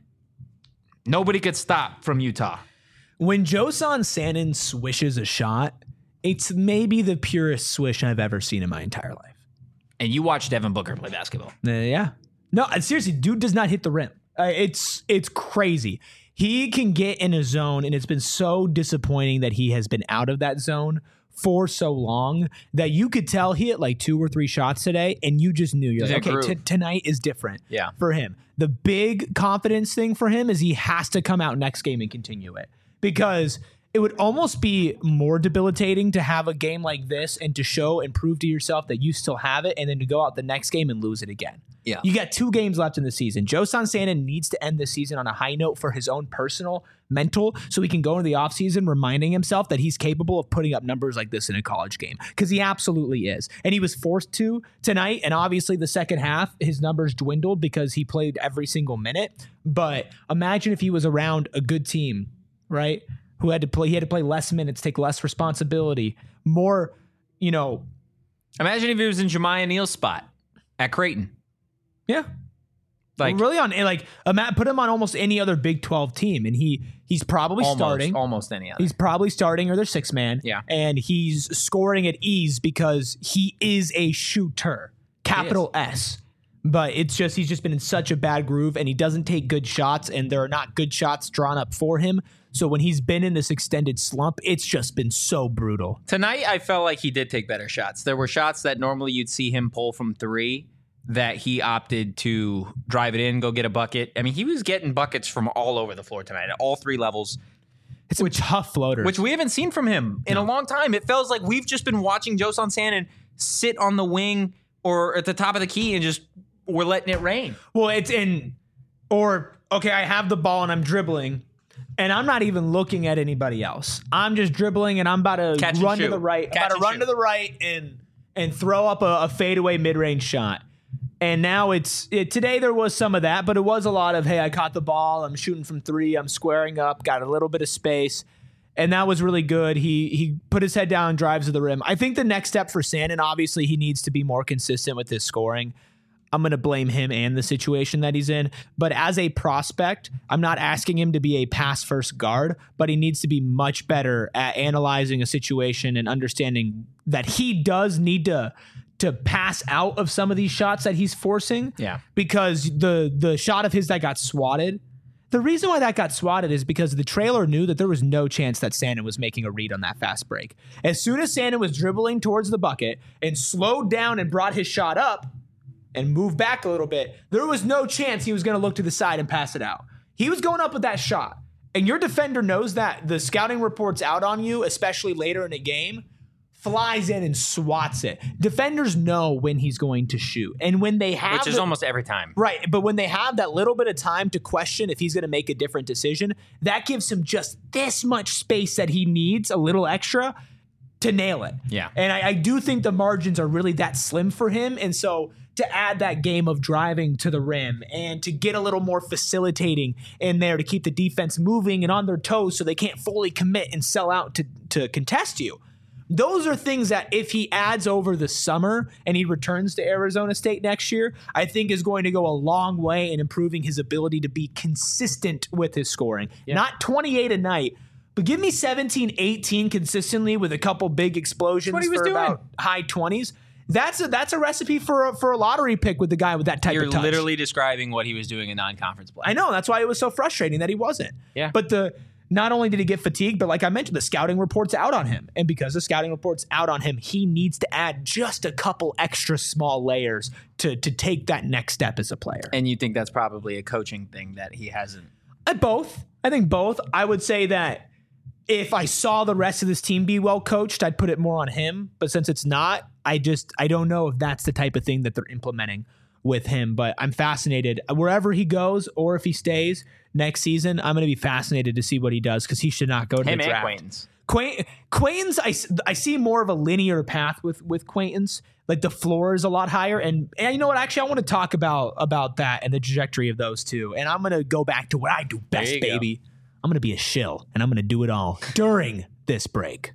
nobody could stop from Utah. When Josan Sannon swishes a shot, it's maybe the purest swish I've ever seen in my entire life. And you watched Devin Booker play basketball. Uh, yeah. No, uh, seriously, dude does not hit the rim. Uh, it's it's crazy. He can get in a zone, and it's been so disappointing that he has been out of that zone for so long that you could tell he hit like two or three shots today, and you just knew. You're He's like, in a okay, t- groove. tonight is different Yeah. for him. The big confidence thing for him is he has to come out next game and continue it, because it would almost be more debilitating to have a game like this and to show and prove to yourself that you still have it, and then to go out the next game and lose it again. Yeah. You got two games left in the season. Josan Sannon needs to end this season on a high note for his own personal mental, so he can go into the offseason reminding himself that he's capable of putting up numbers like this in a college game, because he absolutely is. And he was forced to tonight, and obviously the second half, his numbers dwindled because he played every single minute. But imagine if he was around a good team, right, who had to play, he had to play less minutes, take less responsibility, more, you know. Imagine if he was in Jemiah Neal's spot at Creighton. Yeah. Like really on like Matt put him on almost any other Big twelve team, and he he's probably almost, starting. almost any other. He's probably starting or their six man. Yeah. And he's scoring at ease because he is a shooter. Capital S. But it's just he's just been in such a bad groove, and he doesn't take good shots, and there are not good shots drawn up for him. So when he's been in this extended slump, it's just been so brutal. Tonight, I felt like he did take better shots. There were shots that normally you'd see him pull from three that he opted to drive it in, go get a bucket. I mean, he was getting buckets from all over the floor tonight at all three levels, It's a tough floater. which we haven't seen from him in a long time. It feels like we've just been watching Josan Sannon sit on the wing or at the top of the key and just we're letting it rain. Well, it's in, or, okay, I have the ball and I'm dribbling, and I'm not even looking at anybody else. I'm just dribbling, and I'm about to Catch and run to shoot. the right. Catch I'm about to and run shoot. to the right and and throw up a, a fadeaway mid-range shot. And now it's, it, today there was some of that, but it was a lot of, hey, I caught the ball, I'm shooting from three, I'm squaring up, got a little bit of space. And that was really good. He he put his head down and drives to the rim. I think the next step for Sannon, obviously, he needs to be more consistent with his scoring. I'm going to blame him and the situation that he's in. But as a prospect, I'm not asking him to be a pass-first guard, but he needs to be much better at analyzing a situation and understanding that he does need to to pass out of some of these shots that he's forcing. Yeah. Because the the shot of his that got swatted, the reason why that got swatted is because the trailer knew that there was no chance that Sannon was making a read on that fast break. As soon as Sannon was dribbling towards the bucket and slowed down and brought his shot up and moved back a little bit, there was no chance he was going to look to the side and pass it out. He was going up with that shot. And your defender knows that. The scouting report's out on you, especially later in a game, flies in and swats it. Defenders know when he's going to shoot. And when they have Which is the- almost every time. Right, but when they have that little bit of time to question if he's going to make a different decision, that gives him just this much space that he needs, a little extra, to nail it. Yeah. And I, I do think the margins are really that slim for him. And so to add that game of driving to the rim and to get a little more facilitating in there to keep the defense moving and on their toes so they can't fully commit and sell out to, to contest you. those are things that if he adds over the summer and he returns to Arizona State next year, I think is going to go a long way in improving his ability to be consistent with his scoring. Yeah. Not twenty-eight a night, but give me seventeen, eighteen consistently with a couple big explosions That's what he was for doing. about high twenties. That's a that's a recipe for a, for a lottery pick with the guy with that type You're of touch. You're literally describing what he was doing in non-conference play. I know. That's why it was so frustrating that he wasn't. Yeah. But the not only did he get fatigued, but like I mentioned, the scouting report's out on him. And because the scouting report's out on him, he needs to add just a couple extra small layers to to take that next step as a player. And you think that's probably a coaching thing that he hasn't? Uh, both. I think both. I would say that if I saw the rest of this team be well coached, I'd put it more on him. But since it's not, I just I don't know if that's the type of thing that they're implementing with him. But I'm fascinated. Wherever he goes or if he stays next season, I'm going to be fascinated to see what he does because he should not go to him the draft. and Quaintance. Quaint, Quaintance, I, I see more of a linear path with with Quaintance. Like the floor is a lot higher. And, and you know what? Actually, I want to talk about, about that and the trajectory of those two. And I'm going to go back to what I do best, baby. Go. I'm going to be a shill, and I'm going to do it all during this break.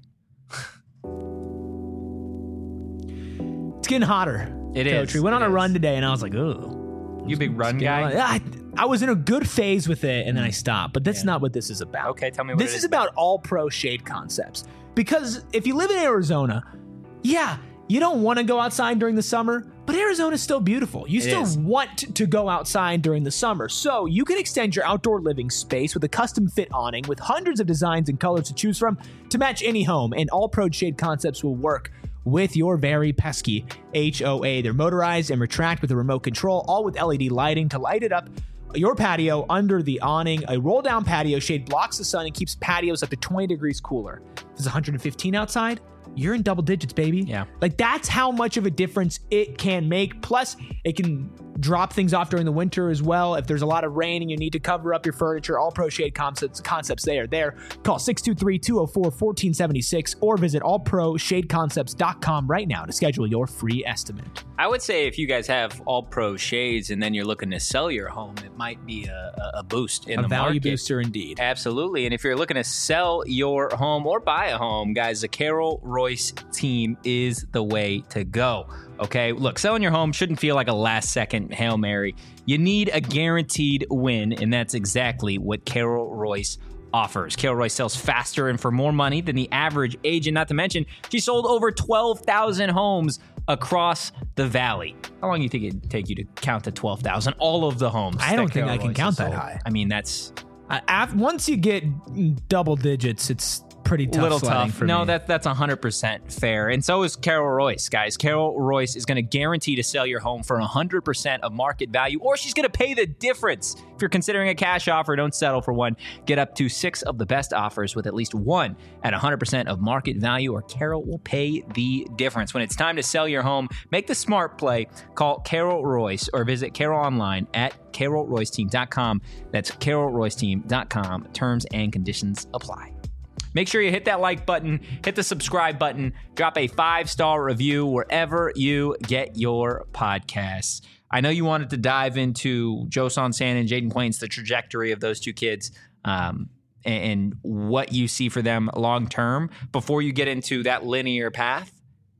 It's getting hotter. It Coach. is. We went on it a is. run today, and I was like, ooh. You big run guy? I, I was in a good phase with it, and then I stopped. But that's yeah. not what this is about. Okay, tell me what This it is is about all-pro shade concepts. Because if you live in Arizona, yeah, you don't want to go outside during the summer, but Arizona's still beautiful. You it still is. want to go outside during the summer. So you can extend your outdoor living space with a custom fit awning with hundreds of designs and colors to choose from to match any home. And all Pro Shade Concepts will work with your very pesky H O A. They're motorized and retract with a remote control, all with L E D lighting to light it up your patio under the awning. A roll-down patio shade blocks the sun and keeps patios up to twenty degrees cooler. If it's one hundred fifteen outside, you're in double digits, baby. Yeah. Like that's how much of a difference it can make. Plus, it can drop things off during the winter as well. If there's a lot of rain and you need to cover up your furniture, all Pro Shade Concepts, concepts they are there. Call six two three, two oh four, one four seven six or visit all pro shade concepts dot com right now to schedule your free estimate. I would say if you guys have all pro shades and then you're looking to sell your home, it might be a, a boost in a the value market. booster indeed. Absolutely. And if you're looking to sell your home or buy a home, guys, the Carol Royce team is the way to go. Okay, look, selling your home shouldn't feel like a last second Hail Mary. You need a guaranteed win, and that's exactly what Carol Royce offers. Carol Royce sells faster and for more money than the average agent, not to mention she sold over twelve thousand homes across the valley. How long do you think it'd take you to count to twelve thousand? All of the homes. I don't think Carol I can Royce count that sold. high. I mean, that's... Uh, af- once you get double digits, it's pretty tough. Little sledding tough. for no, me. that that's one hundred percent fair. And so is Carol Royce, guys. Carol Royce is going to guarantee to sell your home for one hundred percent of market value, or she's going to pay the difference. If you're considering a cash offer, don't settle for one. Get up to six of the best offers with at least one at one hundred percent of market value, or Carol will pay the difference. When it's time to sell your home, make the smart play. Call Carol Royce or visit Carol online at carol royce team dot com. That's carol royce team dot com. Terms and conditions apply. Make sure you hit that like button, hit the subscribe button, drop a five-star review wherever you get your podcasts. I know you wanted to dive into Joe Sonsan and Jaden Quaintance, the trajectory of those two kids, um, and, and what you see for them long-term. Before you get into that linear path,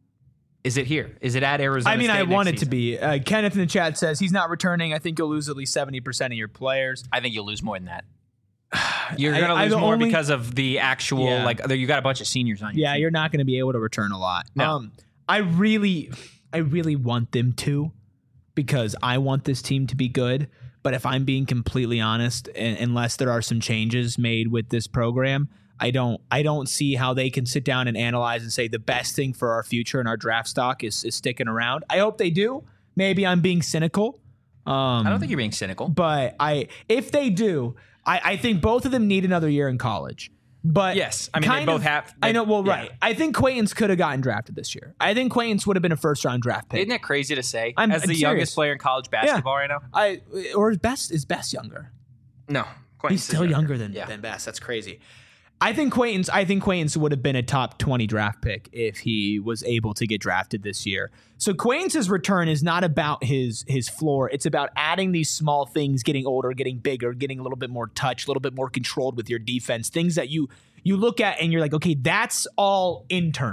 is it here? Is it at Arizona I mean, State I want it season? to be. Uh, Kenneth in the chat says he's not returning. I think you'll lose at least seventy percent of your players. I think you'll lose more than that. You're I- going to I lose more only- because of the actual, Yeah. like, you got a bunch of seniors on your Yeah, team. you're not going to be able to return a lot. No. Um, I really, I really want them to, because I want this team to be good. But if I'm being completely honest, and, unless there are some changes made with this program, I don't, I don't see how they can sit down and analyze and say the best thing for our future and our draft stock is, is sticking around. I hope they do. Maybe I'm being cynical. Um, I don't think you're being cynical. but I, if they do, I, I think both of them need another year in college. But Yes. I mean, they kind both of- have- I know. Well, yeah. right. I think Quaintance could have gotten drafted this year. I think Quaintance would have been a first round draft pick. Isn't that crazy to say? I'm- As the I'm serious. youngest player in college basketball right now? I or is Best is Best younger? No. He's Quaintance still is younger than, Yeah. than Best. That's crazy. I think Quaintance. I think Quaintance would have been a top twenty draft pick if he was able to get drafted this year. So Quaintance's return is not about his his floor. It's about adding these small things, getting older, getting bigger, getting a little bit more touch, a little bit more controlled with your defense. Things that you you look at and you're like, okay, that's all internal.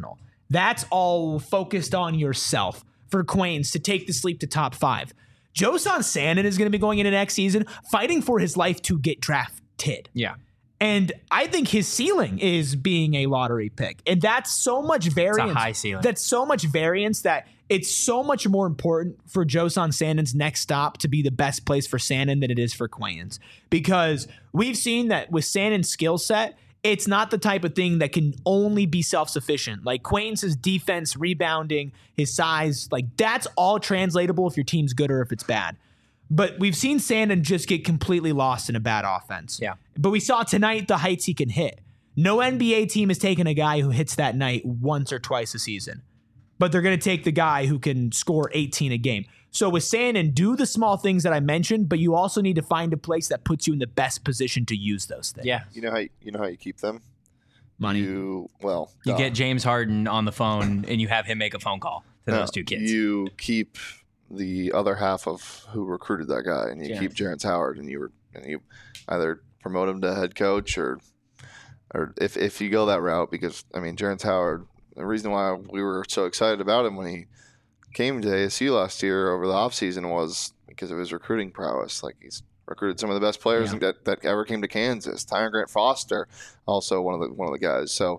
That's all focused on yourself for Quains to take the sleep to top five. Josan Sannon is going to be going into next season fighting for his life to get drafted. Yeah. And I think his ceiling is being a lottery pick. And that's so much variance. It's a high ceiling. That's so much variance that it's so much more important for Josan Sannon's next stop to be the best place for Sannon than it is for Quains. Because we've seen that with Sannon's skill set, it's not the type of thing that can only be self-sufficient. Like Quains' defense, rebounding, his size, like that's all translatable if your team's good or if it's bad. But we've seen Sannon just get completely lost in a bad offense. Yeah. But we saw tonight the heights he can hit. No N B A team has taken a guy who hits that night once or twice a season. But they're going to take the guy who can score eighteen a game. So with Sannon, do the small things that I mentioned, but you also need to find a place that puts you in the best position to use those things. Yeah. You know how you, you know how you keep them? Money. You well, You duh. get James Harden on the phone and you have him make a phone call to No, those two kids. You keep the other half of who recruited that guy, and you Yeah. keep Jarrett Howard, and you were and you either promote him to head coach or or if if you go that route, because I mean Jarrett Howard, the reason why we were so excited about him when he came to A S U last year over the offseason was because of his recruiting prowess. Like he's recruited some of the best players Yeah. that, that ever came to Kansas. Tyron Grant Foster, also one of the one of the guys. So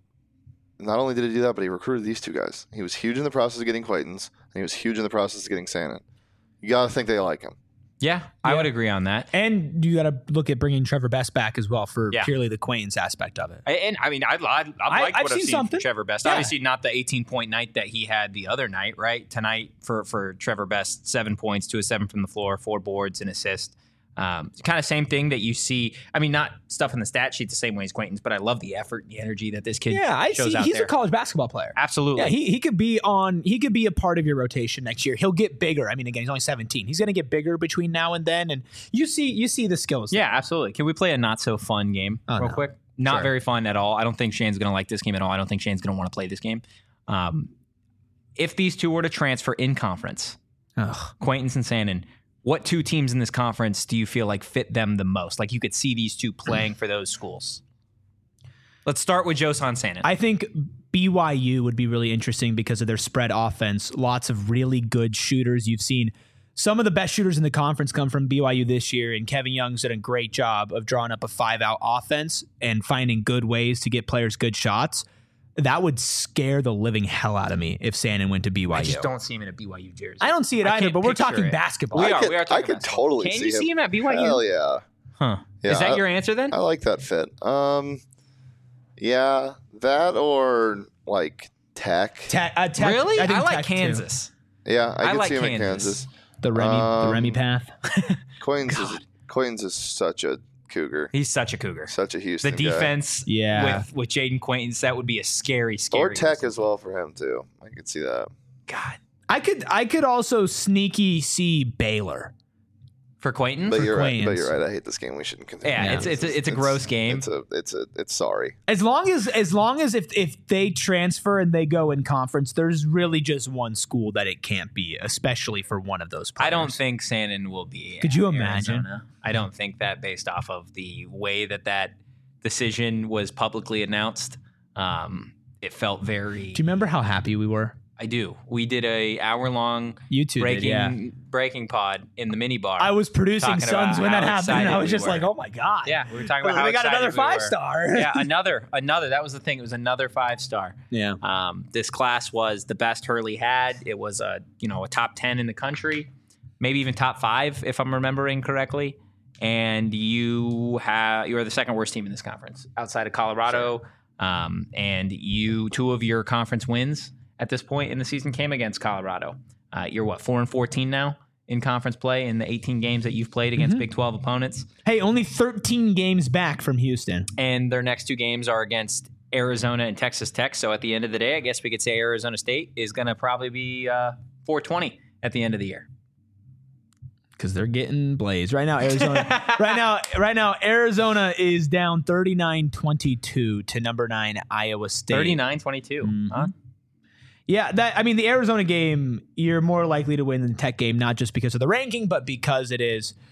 not only did he do that, but he recruited these two guys. He was huge in the process of getting Quaintance, and he was huge in the process of getting Sannon. You got to think they like him. Yeah, I would agree on that. And you got to look at bringing Trevor Best back as well for Yeah. purely the Quains aspect of it. I- And I mean, I, I, I like I- what I've I've seen seen, something. from Trevor Best. Yeah. Obviously, not the eighteen-point night that he had the other night, right? Tonight for for Trevor Best, seven points, two of seven from the floor, four boards, and assist. Um, kind of same thing that you see. I mean, not stuff in the stat sheet the same way as Quaintance, but I love the effort, and the energy that this kid Yeah, I shows see. out He's there. a college basketball player. Absolutely. Yeah, he, he could be on. He could be a part of your rotation next year. He'll get bigger. I mean, again, he's only seventeen. He's going to get bigger between now and then, and you see, you see the skills. Yeah, absolutely. Can we play a not so fun game Oh, real no. quick? Not Sure. very fun at all. I don't think Shane's going to like this game at all. I don't think Shane's going to want to play this game. Um, if these two were to transfer in conference, Ugh. Quaintance and Sannon, what two teams in this conference do you feel like fit them the most? Like you could see these two playing for those schools. Let's start with Josan Sannon. I think B Y U would be really interesting because of their spread offense. Lots of really good shooters. You've seen some of the best shooters in the conference come from B Y U this year, and Kevin Young's done a great job of drawing up a five-out offense and finding good ways to get players good shots. That would scare the living hell out of me if Sannon went to B Y U. I just don't see him in a B Y U jersey. I don't see it I either, can't but we're picture talking it. basketball. We I are. could, we are talking I could basketball. totally Can see you see him at B Y U? Hell yeah. Huh. Yeah, Is that I- your answer then? I like that fit. Um, yeah, that or like Tech. Tech, uh, Tech, really? I, think like Tech, too. Kansas. Yeah, I, I could like see him in Kansas. Kansas. The Remy, the Um, Remy path. Quaintance is Quaintance is such a cougar, He's such a cougar. such a Houston The guy. defense Yeah. with, with Jaden Quaintance, that would be a scary, scary. or Tech as well for him too. I could see that. God. I could, I could also sneaky see Baylor. For Quaintance? But you're right. But Quaintance. you're right. I hate this game. We shouldn't continue. Yeah, Yeah. it's it's a, it's a gross game. It's a it's a it's sorry. As long as, as long as if if they transfer and they go in conference, there's really just one school that it can't be, especially for one of those players. I don't think Sannon will be. Could you at imagine? Arizona. I don't think that based off of the way that that decision was publicly announced. Um, it felt very. Do you remember how happy we were? I do. We did a hour long You two breaking did, yeah. breaking pod in the mini bar. I was producing Talking Suns about when that how happened, and I excited was we just were. like, "Oh my god!" Yeah, we were talking about how we got excited another we five were. star. Yeah, another another. That was the thing. It was another five star. yeah. Um, this class was the best Hurley had. It was a you know a top ten in the country, maybe even top five if I'm remembering correctly. And you have you are the second worst team in this conference outside of Colorado. Um, and you two of your conference wins at this point in the season came against Colorado. Uh, you're what four and fourteen now in conference play in the eighteen games that you've played against Mm-hmm. Big twelve opponents. Hey, only thirteen games back from Houston. And their next two games are against Arizona and Texas Tech. So at the end of the day, I guess we could say Arizona State is going to probably be uh, four twenty at the end of the year. Because they're getting blazed right now. Arizona, right now, right now, Arizona is down thirty-nine twenty-two to number nine Iowa State. thirty-nine twenty-two. Mhm. Huh? Yeah, that I mean, the Arizona game, you're more likely to win than the Tech game, not just because of the ranking, but because it is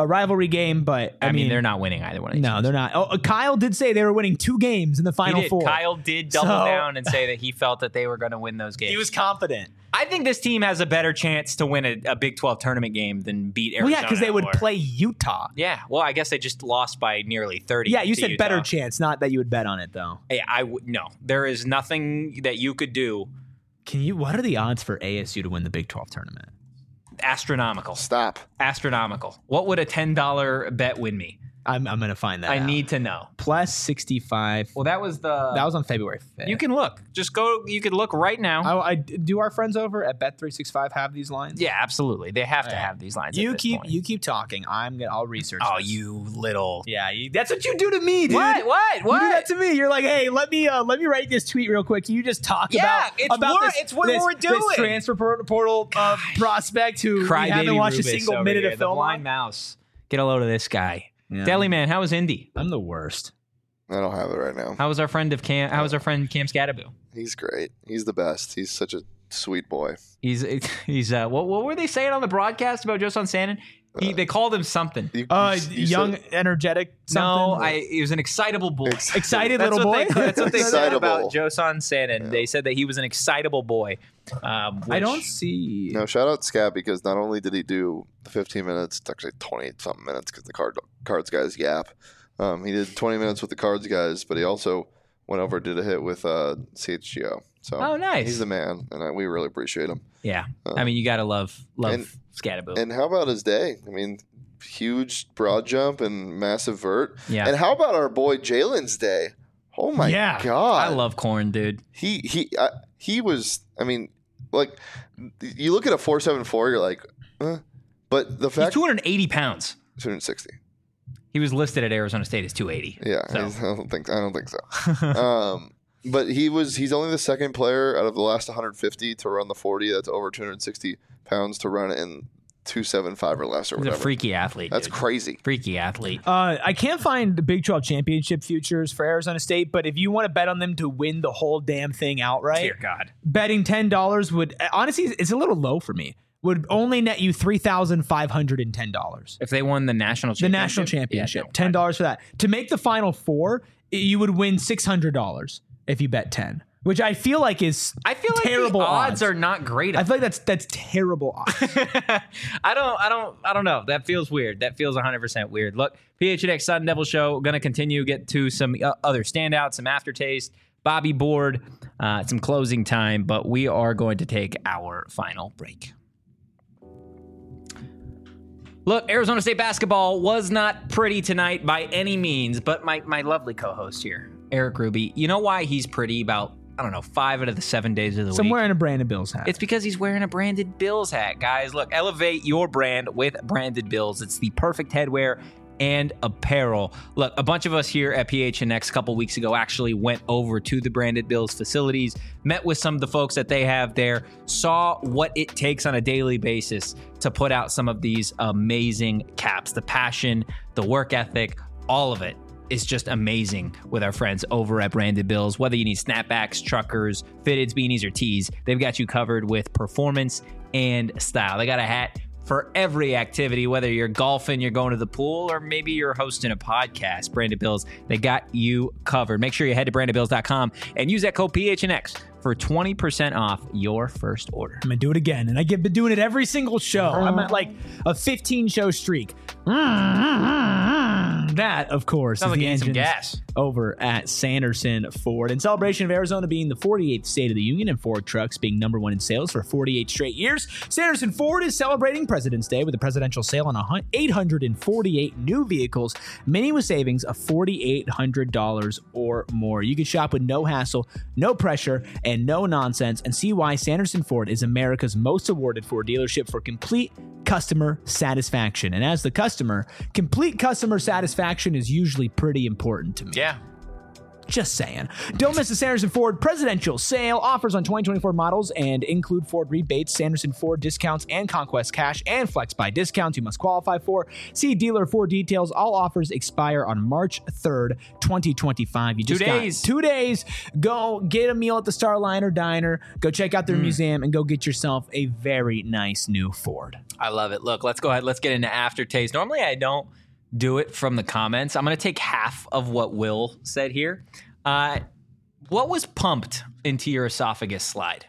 a rivalry game, but I, I, mean, mean, they're not winning either one of these. no, games. they're not. Oh, Kyle did say they were winning two games in the He final did. four. Kyle did double So- down and say that he felt that they were going to win those games. He was confident. I think this team has a better chance to win a, a Big twelve tournament game than beat Well, Arizona. yeah, because they would or- play Utah. Yeah, well, I guess they just lost by nearly thirty. Yeah, you to said Utah. better chance, not that you would bet on it though. Hey, I would no. There is nothing that you could do. Can you? What are the odds for A S U to win the Big twelve tournament? Astronomical. Stop. Astronomical. What would a ten dollar bet win me? I'm I'm gonna find that. I out. need to know. plus sixty-five. Well, that was the. That was on February fifth. You can look. Just go. You could look right now. I, I do our friends over at Bet three sixty-five have these lines? yeah, absolutely. They have to Yeah. have these lines. You at this keep point. you keep talking. I'm gonna. I'll research. Oh, this. you little. Yeah, you, that's what you do to me, dude. What? What? You What? do that to me. You're like, hey, let me uh, let me write this tweet real quick. Can you just talk Yeah, about it's about wor- this, it's what this, we're this doing. transfer por- portal uh, prospect who we Crybaby haven't watched Rubis a single over minute here, of the film blind on? mouse. Get a load of this guy. Yeah. Deli man, how was Indy? I'm the worst. I don't have it right now. How was our friend of Cam? How was our friend Cam Scadaboo? He's great. He's the best. He's such a sweet boy. He's he's uh what what were they saying on the broadcast about Josan Sannon? He they called him something. You- Uh, you- you young, said- energetic. No, Something? I he was an excitable boy. Ex- excited That's little what boy. they that's what they said Excitable. about Josan Sannon. They said that he was an excitable boy. Um, I which- don't see. No, shout out Scat because not only did he do the fifteen minutes, it's actually twenty something minutes because the card cards guys yap. Um, he did twenty minutes with the cards guys, but he also went over and did a hit with uh, C H G O. So Oh, nice. he's the man, and I, we really appreciate him. Yeah, Uh, I mean you gotta love love and- Scadaboo. And how about his day? I mean, huge broad jump and massive vert. Yeah. And how about our boy Jalen's day? Oh my Yeah. god! I love corn, dude. he he uh, he was. I mean, like you look at a four seven four, you're like, uh, but the He's fact two hundred eighty pounds. two hundred sixty. He was listed at Arizona State as two eighty. Yeah, So. he's- I don't think I don't think so. um, but he was he's only the second player out of the last one hundred fifty to run the forty. That's over two hundred sixty pounds to run it in two seventy-five or less or He's a whatever. freaky athlete. That's dude. crazy. Freaky athlete. Uh, I can't find the Big twelve championship futures for Arizona State, but if you want to bet on them to win the whole damn thing outright, Dear God. betting ten dollars would honestly it's a little low for me. Would only net you three thousand five hundred and ten dollars. If they won the national The championship. national championship, Yeah, no, ten dollars for that. To make the final four, i- you would win six hundred dollars if you bet ten, which I feel like is I feel like terrible the odds, odds. are not great. I feel like that's that's terrible odds. I don't, I don't, I don't know. That feels weird. That feels one hundred percent weird. Look, P H N X Sun Devil Show going to continue get to some uh, other standouts, some aftertaste. Bobby Board, uh, some closing time, but we are going to take our final break. Look, Arizona State basketball was not pretty tonight by any means, but my, my lovely co-host here, Eric Ruby, you know why he's pretty about, I don't know, five out of the seven days of the So I'm week? wearing a Brandon Bills hat. It's because he's wearing a branded Bills hat, guys. Look, elevate your brand with branded Bills. It's the perfect headwear and apparel. Look, a bunch of us here at P H N X a couple weeks ago actually went over to the Branded Bills facilities, met with some of the folks that they have there, saw what it takes on a daily basis to put out some of these amazing caps. The passion, the work ethic, all of it is just amazing with our friends over at Branded Bills. Whether you need snapbacks, truckers, fitteds, beanies, or tees, they've got you covered with performance and style. They got a hat for every activity, whether you're golfing, you're going to the pool, or maybe you're hosting a podcast. Branded Bills, they got you covered. Make sure you head to branded bills dot com and use that code P H N X for twenty percent off your first order. I'm gonna do it again, and I have been doing it every single show. I'm at like a fifteen show streak. That, of course, Sounds is like the you need some engines gas. over at Sanderson Ford. In celebration of Arizona being the forty-eighth state of the union and Ford trucks being number one in sales for forty-eight straight years, Sanderson Ford is celebrating President's Day with a presidential sale on eight hundred forty-eight new vehicles, many with savings of four thousand eight hundred dollars or more. You can shop with no hassle, no pressure, and no nonsense, and see why Sanderson Ford is America's most awarded Ford dealership for complete customer satisfaction. And as the customer, complete customer satisfaction is usually pretty important to me. Yeah. Just saying. Don't miss the Sanderson Ford presidential sale. Offers on twenty twenty-four models and include Ford rebates, Sanderson Ford discounts, and Conquest cash and Flex Buy discounts you must qualify for. See dealer for details. All offers expire on March third, twenty twenty-five. You just Two got days. two days. Go get a meal at the Starliner Diner. Go check out their Mm. museum and go get yourself a very nice new Ford. I love it. Look, let's go ahead. Let's get into aftertaste. Normally, I don't do it from the comments. I'm going to take half of what Will said here. Uh, what was pumped into your esophagus slide?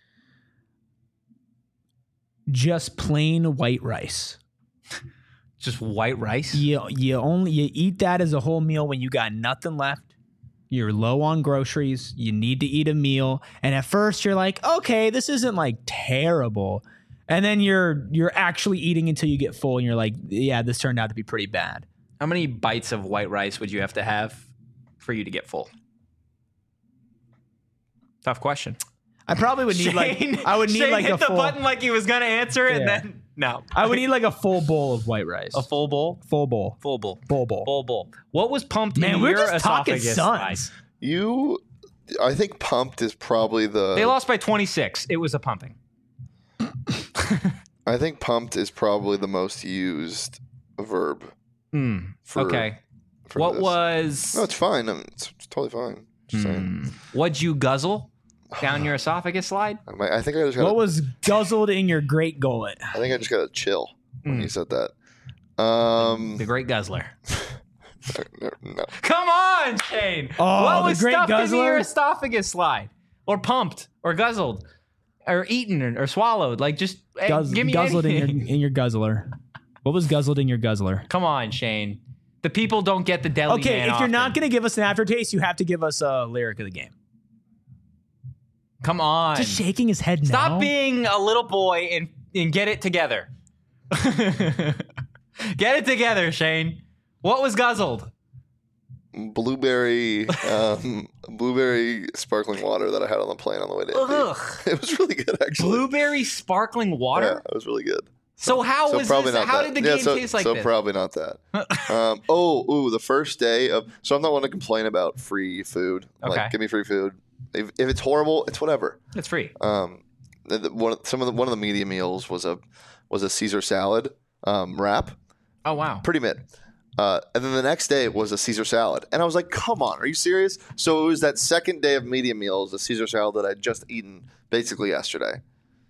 Just plain white rice. Just white rice? You you only you eat that as a whole meal when you got nothing left. You're low on groceries. You need to eat a meal, and at first you're like, okay, this isn't like terrible, and then you're you're actually eating until you get full, and you're like, yeah, this turned out to be pretty bad. How many bites of white rice would you have to have for you to get full? Tough question. I probably would need like Shane- I would need Shane like hit a the full. button like he was going to answer, and Yeah. then no. I would need like a full bowl of white rice. a full bowl. full bowl. Full bowl. Full bowl. Full bowl. What was pumped Man, in we're your just talking esophagus Suns. slide? You, I think pumped is probably the. They lost by twenty-six. It was a pumping. I think pumped is probably the most used verb. Mm, For, okay. for What this. was? No, it's fine. I mean, it's, it's totally fine. Just saying. Mm, what'd you guzzle down your esophagus slide? I, might- I think I just got. What was guzzled in your great gullet? I think I just got to chill when Mm. you said that. Um, The Great Guzzler. no, no. Come on, Shane. Oh, what the was Great stuffed into Guzzler? your esophagus slide, or pumped, or guzzled, or eaten, or, or swallowed? Like just hey, Guzz- give me guzzled in anything. your in your guzzler. What was guzzled in your guzzler? Come on, Shane. The people don't get the deli. Okay, man if you're not often. going to give us an aftertaste, you have to give us a lyric of the game. come on, Just shaking his head stop now. being a little boy and and get it together. Get it together, Shane. What was guzzled? Blueberry, um, blueberry sparkling water that I had on the plane on the way to Indy. Ugh. It was really good, actually. Blueberry sparkling water. Yeah, it was really good. So how So was probably this? not How that. did the yeah, game so, taste like so this? probably not that. um, oh, ooh, the first day of. So I'm not one to complain about free food. Okay. Like, give me free food. If, if it's horrible, it's whatever. It's free. Um, the, the, one of- some of the one of the media meals was a was a Caesar salad um, wrap. Oh wow. Pretty mid. Uh, and then the next day was a Caesar salad. And I was like, come on, are you serious? So it was that second day of media meals, the Caesar salad that I'd just eaten basically yesterday.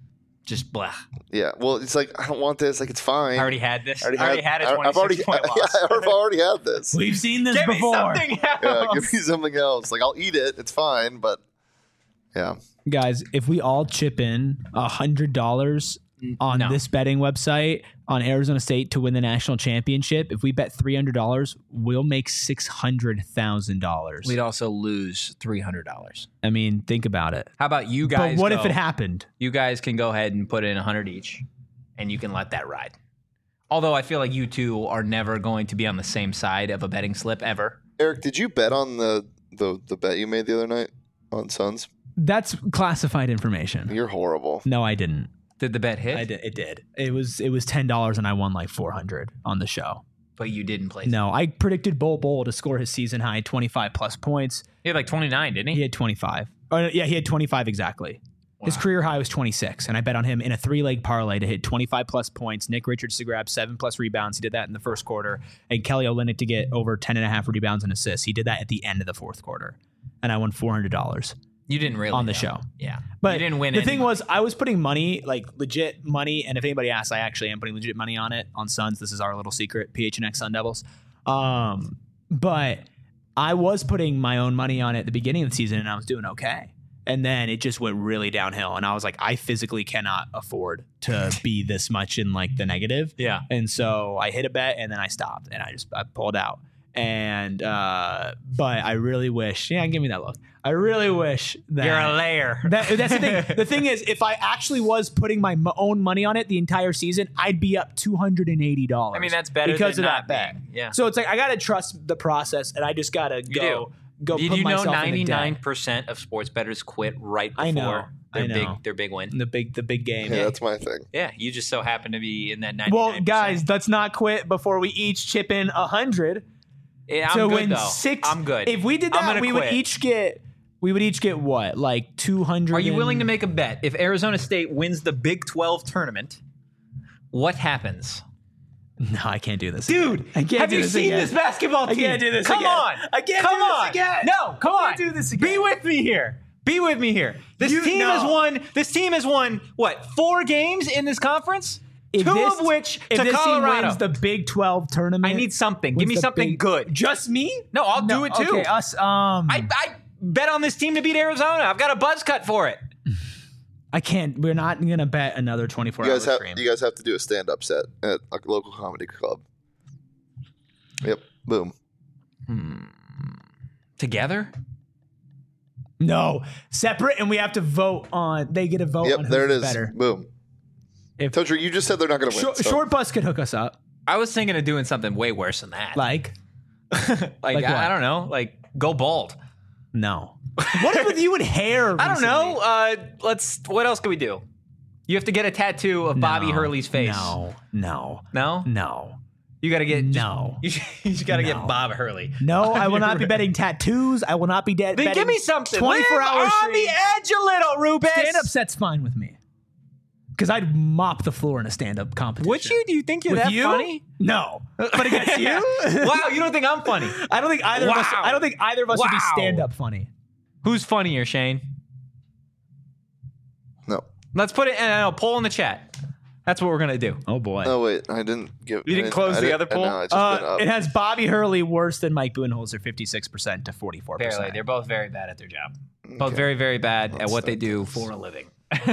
Just blah. Yeah. Well, it's like, I don't want this. Like, it's fine. I already had this. I I already, had, a I- twenty-six I've already, point yeah, loss. I've already had this. We've seen this Give me before. something else. Yeah, give me something else. Like, I'll eat it. It's fine. But yeah. Guys, if we all chip in one hundred dollars on No. this betting website on Arizona State to win the national championship, if we bet three hundred dollars, we'll make six hundred thousand dollars. We'd also lose three hundred dollars. I mean, think about it. How about you guys? But what go- if it happened? You guys can go ahead and put in one hundred each, and you can let that ride. Although I feel like you two are never going to be on the same side of a betting slip ever. Eric, did you bet on the, the, the bet you made the other night on Suns? That's classified information. You're horrible. No, I didn't. Did the bet hit? I did. It did. It was it was ten dollars and I won like four hundred on the show. But you didn't place. No, I predicted Bol Bol to score his season high twenty-five plus points. He had like twenty-nine, didn't he? He had twenty-five. Oh, no, yeah, he had twenty-five exactly. His Wow. career high was twenty-six, and I bet on him in a three-leg parlay to hit twenty-five plus points. Nick Richards to grab seven plus rebounds. He did that in the first quarter. And Kelly Olynyk to get over ten and a half rebounds and assists. He did that at the end of the fourth quarter. And I won four hundred dollars. You didn't really On the though. show. Yeah, But you didn't win. the any thing money. was, I was putting money, like legit money. And if anybody asks, I actually am putting legit money on it on Suns. This is our little secret, P H N X Sun Devils. Um, but I was putting my own money on it at the beginning of the season, and I was doing okay. And then it just went really downhill. And I was like, I physically cannot afford to be this much in like the negative. yeah. And so I hit a bet and then I stopped and I just I pulled out. And uh, but I really wish, yeah, give me that look. I really wish that You're a layer. that, that's the thing. The thing is, if I actually was putting my m- own money on it the entire season, I'd be up two hundred and eighty dollars. I mean, that's better because than of not that bet. being. Yeah. So it's like I gotta trust the process, and I just gotta You go go. Did put you know myself in the ninety-nine debt. percent of sports bettors quit right before I know. their I know. big their big win? The big the big game. Yeah, that's my thing. Yeah, you just so happen to be in that ninety-nine Well, percent. guys, let's not quit before we each chip in a hundred. Yeah, I'm to good, win though. six. I'm good. If we did I'm that, gonna we quit. would each get. We would each get what, like two hundred. Are you willing to make a bet? If Arizona State wins the Big twelve tournament, what happens? No, I can't do this, Dude, again. I can't have do you this seen again. this basketball team? I can't do this Come again. on. I can't Come do this on. again. No, come I on. can't do this again. Be with me here. Be with me here. This You- team no. has won. This team has won what? Four games in this conference. If Two this- of which if to this Colorado. team wins the Big twelve tournament, I need something. wins Give me the something Big- good. Just me? No, I'll do it too. Okay, us. Um, I, I bet on this team to beat Arizona. I've got a buzz cut for it. I can't. We're not gonna bet another twenty-four You hour guys have stream. you guys have to do a stand up set at a local comedy club. Yep. Boom. Together? No, separate, and we have to vote on. They get a vote Yep. on who's There it is. better. Boom. If- Totri, you just said they're not going to win. Short, so- short bus could hook us up, I was thinking of doing something way worse than that. like like, like I, what? I don't know. Like go bald. no. What if with you and hair? I don't recently? know. Uh, let's. What else can we do? You have to get a tattoo of Bobby No, Hurley's face. No, no, No? no, You got to get. no. You, you just got to No. get Bob Hurley. No, I will not be betting tattoos. I will not be dead. Then give me something. twenty-four Live hour on stream. the edge a little, Rubens. Stand up set's fine with me. Because I'd mop the floor in a stand up competition. Would you? Do you think you're With that you? funny? No. But against you? Wow, you don't think I'm funny? I don't think either of us Wow. I don't think either of us would be Wow. stand up funny. Who's funnier, Shane? No. Let's put it in a poll in the chat. That's what we're gonna do. Oh boy. No, wait. I didn't give. You didn't I close I the didn't- other poll? No, it's just been Uh, up. it has Bobby Hurley worse than Mike Budenholzer, fifty-six percent to forty-four percent. Barely. They're both very bad at their job. Both Okay. very, very bad at Let's what they start do this. for a living.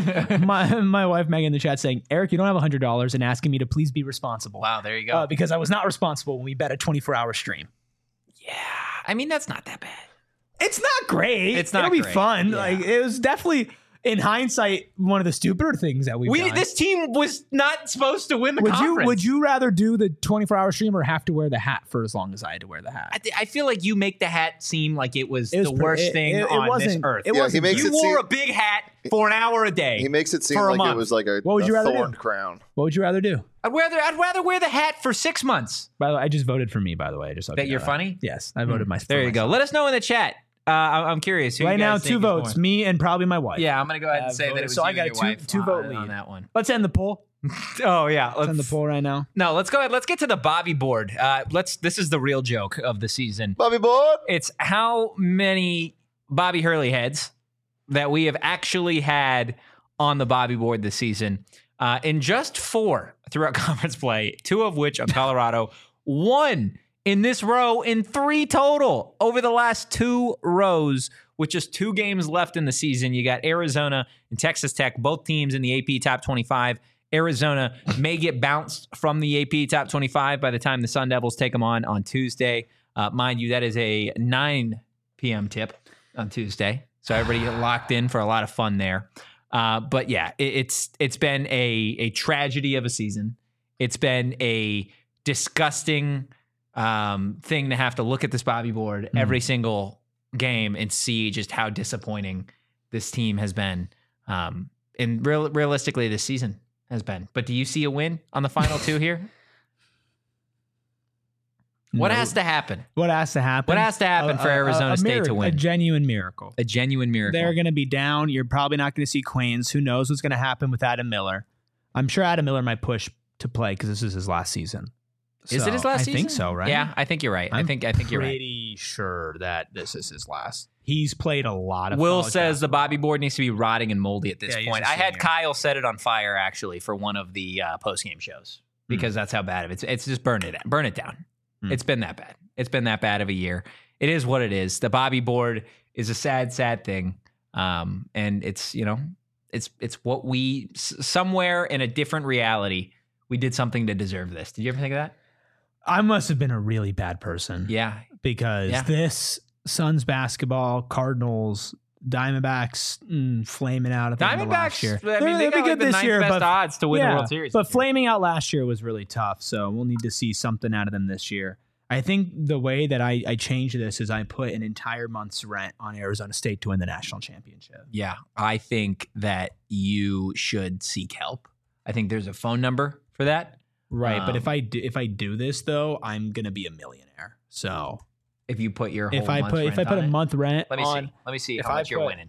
my my wife Megan in the chat saying, Eric, you don't have one hundred dollars and asking me to please be responsible. Wow, there you go. Uh, because I was not responsible when we bet a twenty-four hour stream. yeah, I mean that's not that bad. It's not great. It's not It'll be great. fun. Yeah. Like it was definitely, in hindsight, one of the stupider things that we've We done. this team was not supposed to win the would conference. you would you rather do the twenty-four hour stream or have to wear the hat for as long as I had to wear the hat? I, th- I feel like you make the hat seem like it was, It was the pre- worst it- thing it- it on this wasn't- earth. it Yeah, wasn't he makes you it wore seem- a big hat for an hour a day. He makes it seem for a like month. it was like a, What would a you rather do? thorn crown. What would you rather do? I'd rather I'd rather wear the hat for six months. By the way, I just voted for me. By the way, I just Bet you're funny. Yes, I voted myself. There you go. Let us know in the chat. Uh, I- I'm curious. Who Right you now, guys two think is votes, more- me and probably my wife. Yeah, I'm gonna go ahead and Uh, say that voted. it was So you I and got a your two- wife two vote on, lead. on that one. Let's end the poll. Oh yeah, Let's end the let's, poll right now. no, let's go ahead. Let's get to the Bobby board. Uh, let's. This is the real joke of the season. Bobby Board. It's how many Bobby Hurley heads that we have actually had on the Bobby board this season. Uh, in just four throughout conference play, two of which are Colorado, one in this row in three total over the last two rows with just two games left in the season. You got Arizona and Texas Tech, both teams in the A P top twenty-five. Arizona may get bounced from the A P top twenty-five by the time the Sun Devils take them on on Tuesday. Uh, mind you, that is a nine p.m. tip on Tuesday. So everybody get locked in for a lot of fun there. Uh, but yeah, it, it's it's been a a tragedy of a season. It's been a disgusting um, thing to have to look at this Bobby board Mm. every single game and see just how disappointing this team has been. Um, and real, realistically, this season has been. But do you see a win on the final two here? What No. has to happen? What has to happen? What has to happen A- for a- a- Arizona a State miracle, to A win? genuine miracle. A genuine miracle. They're going to be down. You're probably not going to see Quains. Who knows what's going to happen with Adam Miller? I'm sure Adam Miller might push to play because this is his last season. Is So, it his last I season? think so, right? Yeah, I think you're right. i I'm think I think you're right. Pretty sure that this is his last. He's played a lot of. Will college says the basketball. Bobby board needs to be rotting and moldy at this Yeah, he's point. a I had senior. Kyle set it on fire actually for one of the uh, post game shows because that's how bad of it. It's it's just burn it burn it down. Mm. It's been that bad. It's been that bad of a year. It is what it is. The Bobby board is a sad, sad thing, um, and it's you know it's it's what we s- somewhere in a different reality we did something to deserve this. Did you ever think of that? I must have been a really bad person. Yeah, because Yeah. this Suns basketball, Cardinals, Diamondbacks, mm, flaming out at the end of last Diamondbacks. year. I mean, They're- they they'll got be like good the this ninth year, best but odds to win yeah, the World Series. But this year. flaming out last year was really tough, so we'll need to see something out of them this year. I think the way that I, I changed this is I put an entire month's rent on Arizona State to win the national championship. Yeah, I think that you should seek help. I think there's a phone number for that. Right, Um, but if I do, if I do this though, I'm gonna be a millionaire. So If you put your whole if I month's put if I rent put on a it. month rent Let me on, see. Let me see if how I much you're put- winning.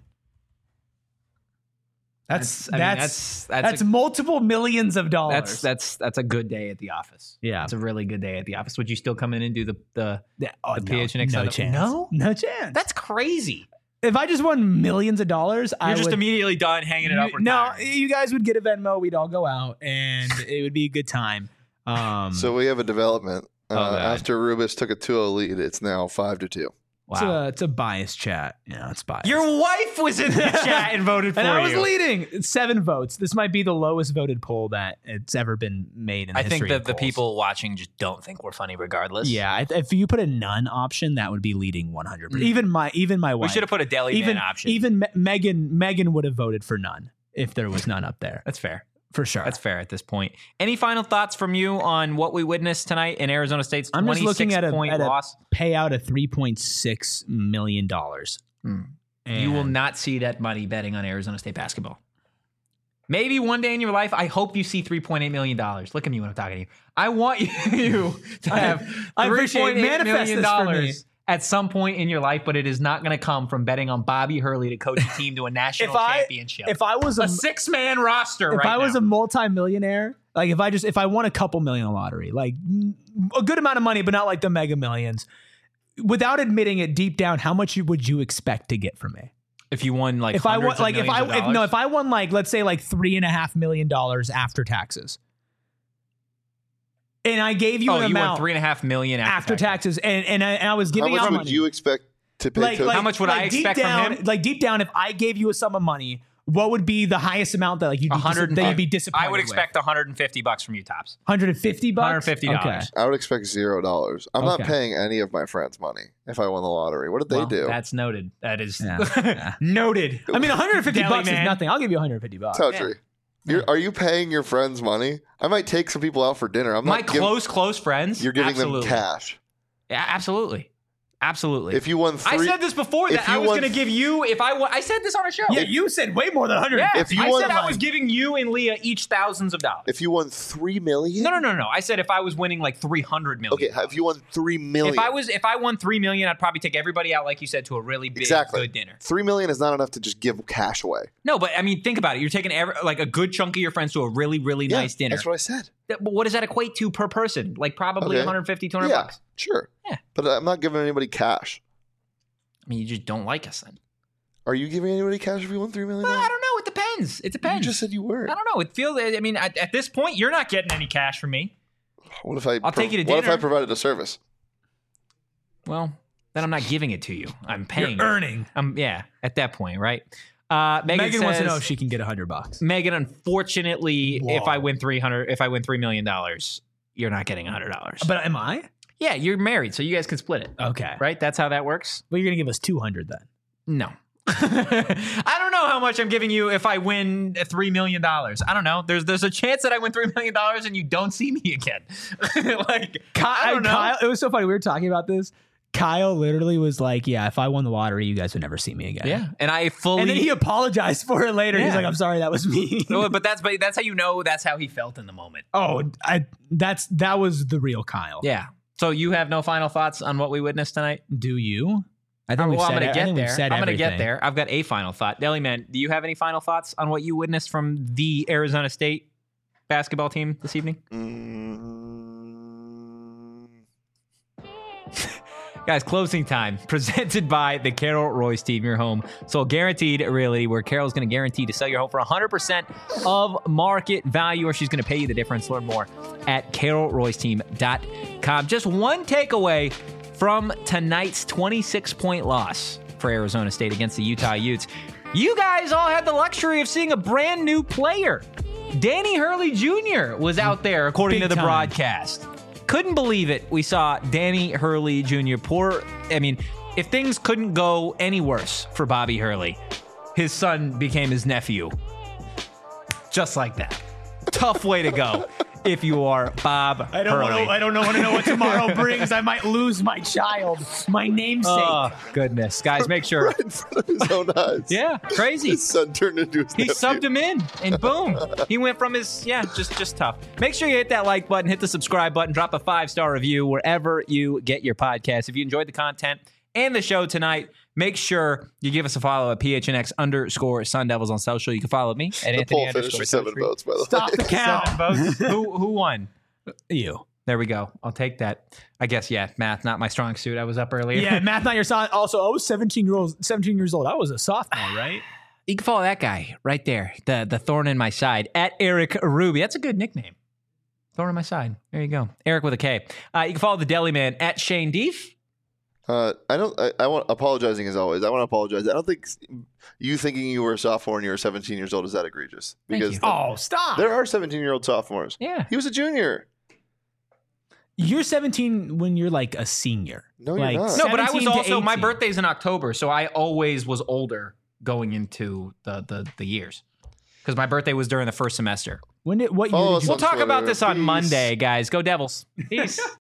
that's I mean, that's that's that's, that's a, multiple millions of dollars. that's that's that's a good day at the office. yeah. It's a really good day at the office. Would you still come in and do the the? Yeah, oh, the no, P H N X no side of- chance. No? no chance. That's crazy. If I just won millions of dollars, I You're just would, immediately done hanging it up. you, no, retiring. you guys would get a Venmo. We'd all go out, and it would be a good time. Um, So we have a development. Uh, Oh, God. after Rubis took a two oh lead, it's now five to two. it's, Wow. a, it's a biased chat. You know, it's biased. Your wife was in the chat and voted for and I was you. leading. It's seven votes. This might be the lowest voted poll that it's ever been made in the I history think that of the polls. people watching just don't think we're funny, regardless. Yeah, I, if you put a none option, that would be leading one hundred. Mm. Even my even my we wife. should have put a deli even man option. even Me- Megan Megan would have voted for none if there was none up there That's fair. for sure. That's fair at this point. Any final thoughts from you on what we witnessed tonight in Arizona State's I'm just looking twenty-six at a- point at a- loss? Pay out a three point six million dollars. Hmm. You will not see that money betting on Arizona State basketball. Maybe one day in your life, I hope you see three point eight million dollars. Look at me when I'm talking to you. I want you to have I appreciate it. three point eight Manifest million this for me. dollars at some point in your life, but it is not going to come from betting on Bobby Hurley to coach a team to a national If I- championship. If I was a, a six-man roster if right I was now. a multi-millionaire, like if I just if I won a couple million in the lottery, like mm, a good amount of money, but not like the mega millions, without admitting it deep down, how much you- would you expect to get from me? if you won like If I won, hundreds of like if I millions of if, no, dollars. if I won like let's say like three and a half million dollars after taxes, and I gave you oh, an you amount won three and a half million after, after taxes, and and I, and I was How giving much out would money. you expect to pay? like, coach? like, How much would I like deep expect from down, him? Like deep down, if I gave you a sum of money, what would be the highest amount that like you'd be, dis- one hundred that you'd be disappointed I would expect one hundred fifty bucks from you tops. one hundred fifty bucks. one hundred fifty dollars. Okay. I would expect zero dollars. I'm not Okay. paying any of my friends money if I won the lottery. What did they Well, do? That's noted. That is Yeah, yeah. noted. I mean, one hundred fifty Deli bucks man. is nothing. I'll give you one hundred fifty bucks. Towtry. You're, are you paying your friends money? I might take some people out for dinner. I'm My not giv- close, close friends. You're giving absolutely. them cash. Yeah, absolutely. Absolutely. If you won I three, said this before if that I you was won- going to give you if I won, I said this on a show. Yeah, you said way more than one hundred. Yeah, If you I won- said I was giving you and Leah each thousands of dollars. if you won three million, no, no, no, no. I said if I was winning like three hundred million. Okay, if you won three million, If I was if I won three million, I'd probably take everybody out, like you said, to a really big exactly good dinner. Three million is not enough to just give cash away. No, but I mean, think about it. You're taking every, like a good chunk of your friends to a really, really Yeah, nice dinner. That's what I said. That- But what does that equate to per person? Like probably Okay. one fifty, two hundred Yeah, bucks. sure. Yeah. But I'm not giving anybody cash. I mean, you just don't like us then. Are you giving anybody cash if you won three million? Well, I don't know. It depends. It You depends. just said you were. I don't know. It feels. I mean, at, at this point, you're not getting any cash from me. What if I? I'll take you to What if dinner. I provided a service? Well, then I'm not giving it to you. I'm paying. You're it. earning. I'm yeah. At that point, right? Uh, Megan, Megan wants to says- know if she can get one hundred bucks. Megan, unfortunately, Whoa. if I win three hundred, if I win three million dollars, you're not getting one hundred dollars. But am I? Yeah, you're married, so you guys can split it, Okay. right? That's how that works. Well, you're gonna give us two hundred then. No. I don't know how much I'm giving you if I win three million dollars. I don't know. There's there's a chance that I win three million dollars and you don't see me again. like I don't know. Kyle, it was so funny. We were talking about this. Kyle literally was like, "Yeah, if I won the lottery, you guys would never see me again." Yeah, and I fully. And then he apologized for it later. He's Yeah. like, "I'm sorry, that was me." No, but that's but that's how you know that's how he felt in the moment. oh, I that's that was the real Kyle. Yeah. So you have no final thoughts on what we witnessed tonight? Do you? I Well, we've I'm said going to it- I get think we've there. said I'm going to get everything. there. I've got a final thought. Deli Man, do you have any final thoughts on what you witnessed from the Arizona State basketball team this evening? Mm, Guys, closing time presented by the Carol Royce team, your home. So guaranteed realty, where Carol's going to guarantee to sell your home for one hundred percent of market value, or she's going to pay you the difference. Learn more at carol royce team dot com. Just one takeaway from tonight's twenty-six point loss for Arizona State against the Utah Utes. You guys all had the luxury of seeing a brand new player. Danny Hurley Junior was out there, according Big to the time. broadcast. Couldn't believe it. We saw Danny Hurley Junior Poor, I mean, if things couldn't go any worse for Bobby Hurley, his son became his nephew. Just like that. Tough way to go. if you are Bob I don't Hurley. want to. I don't know, want to know what tomorrow brings. I might lose my child, my namesake. Oh, goodness. Guys, make sure. Right in front of his own eyes. Yeah, crazy. His son turned into his He nephew. subbed him in, and boom, he went from his yeah, just just tough. Make sure you hit that like button, hit the subscribe button, drop a five star review wherever you get your podcast. If you enjoyed the content and the show tonight, make sure you give us a follow at P H N X underscore Sun Devils on social. You can follow me at The Anthony poll finished underscore with seven Street. votes, by the Stop way. the count. Seven votes. who who won? You. There we go. I'll take that. I guess yeah, math not my strong suit. I was up earlier. Yeah, math not your son. Also, I was seventeen year old. Seventeen years old. I was a sophomore, right? You can follow that guy right there, the the thorn in my side, at Eric Ruby. That's a good nickname. Thorn in my side. There you go. Eric with a K. Uh, you can follow the Deli Man at Shane Deef. Uh, I don't. I, I want apologizing as always. I want to apologize. I don't think you thinking you were a sophomore and you were seventeen years old is that egregious. Thank Because you. the- Oh, stop. there are seventeen-year-old sophomores. Yeah. He was a junior. You're seventeen when you're like a senior. No, you're like not. No, but I was seventeen to also my eighteen. birthday's in October, so I always was older going into the the, the years. Because my birthday was during the first semester. When did what year Follow did us you? We'll on talk Twitter. about this on Peace. Monday, guys. Go Devils. Peace.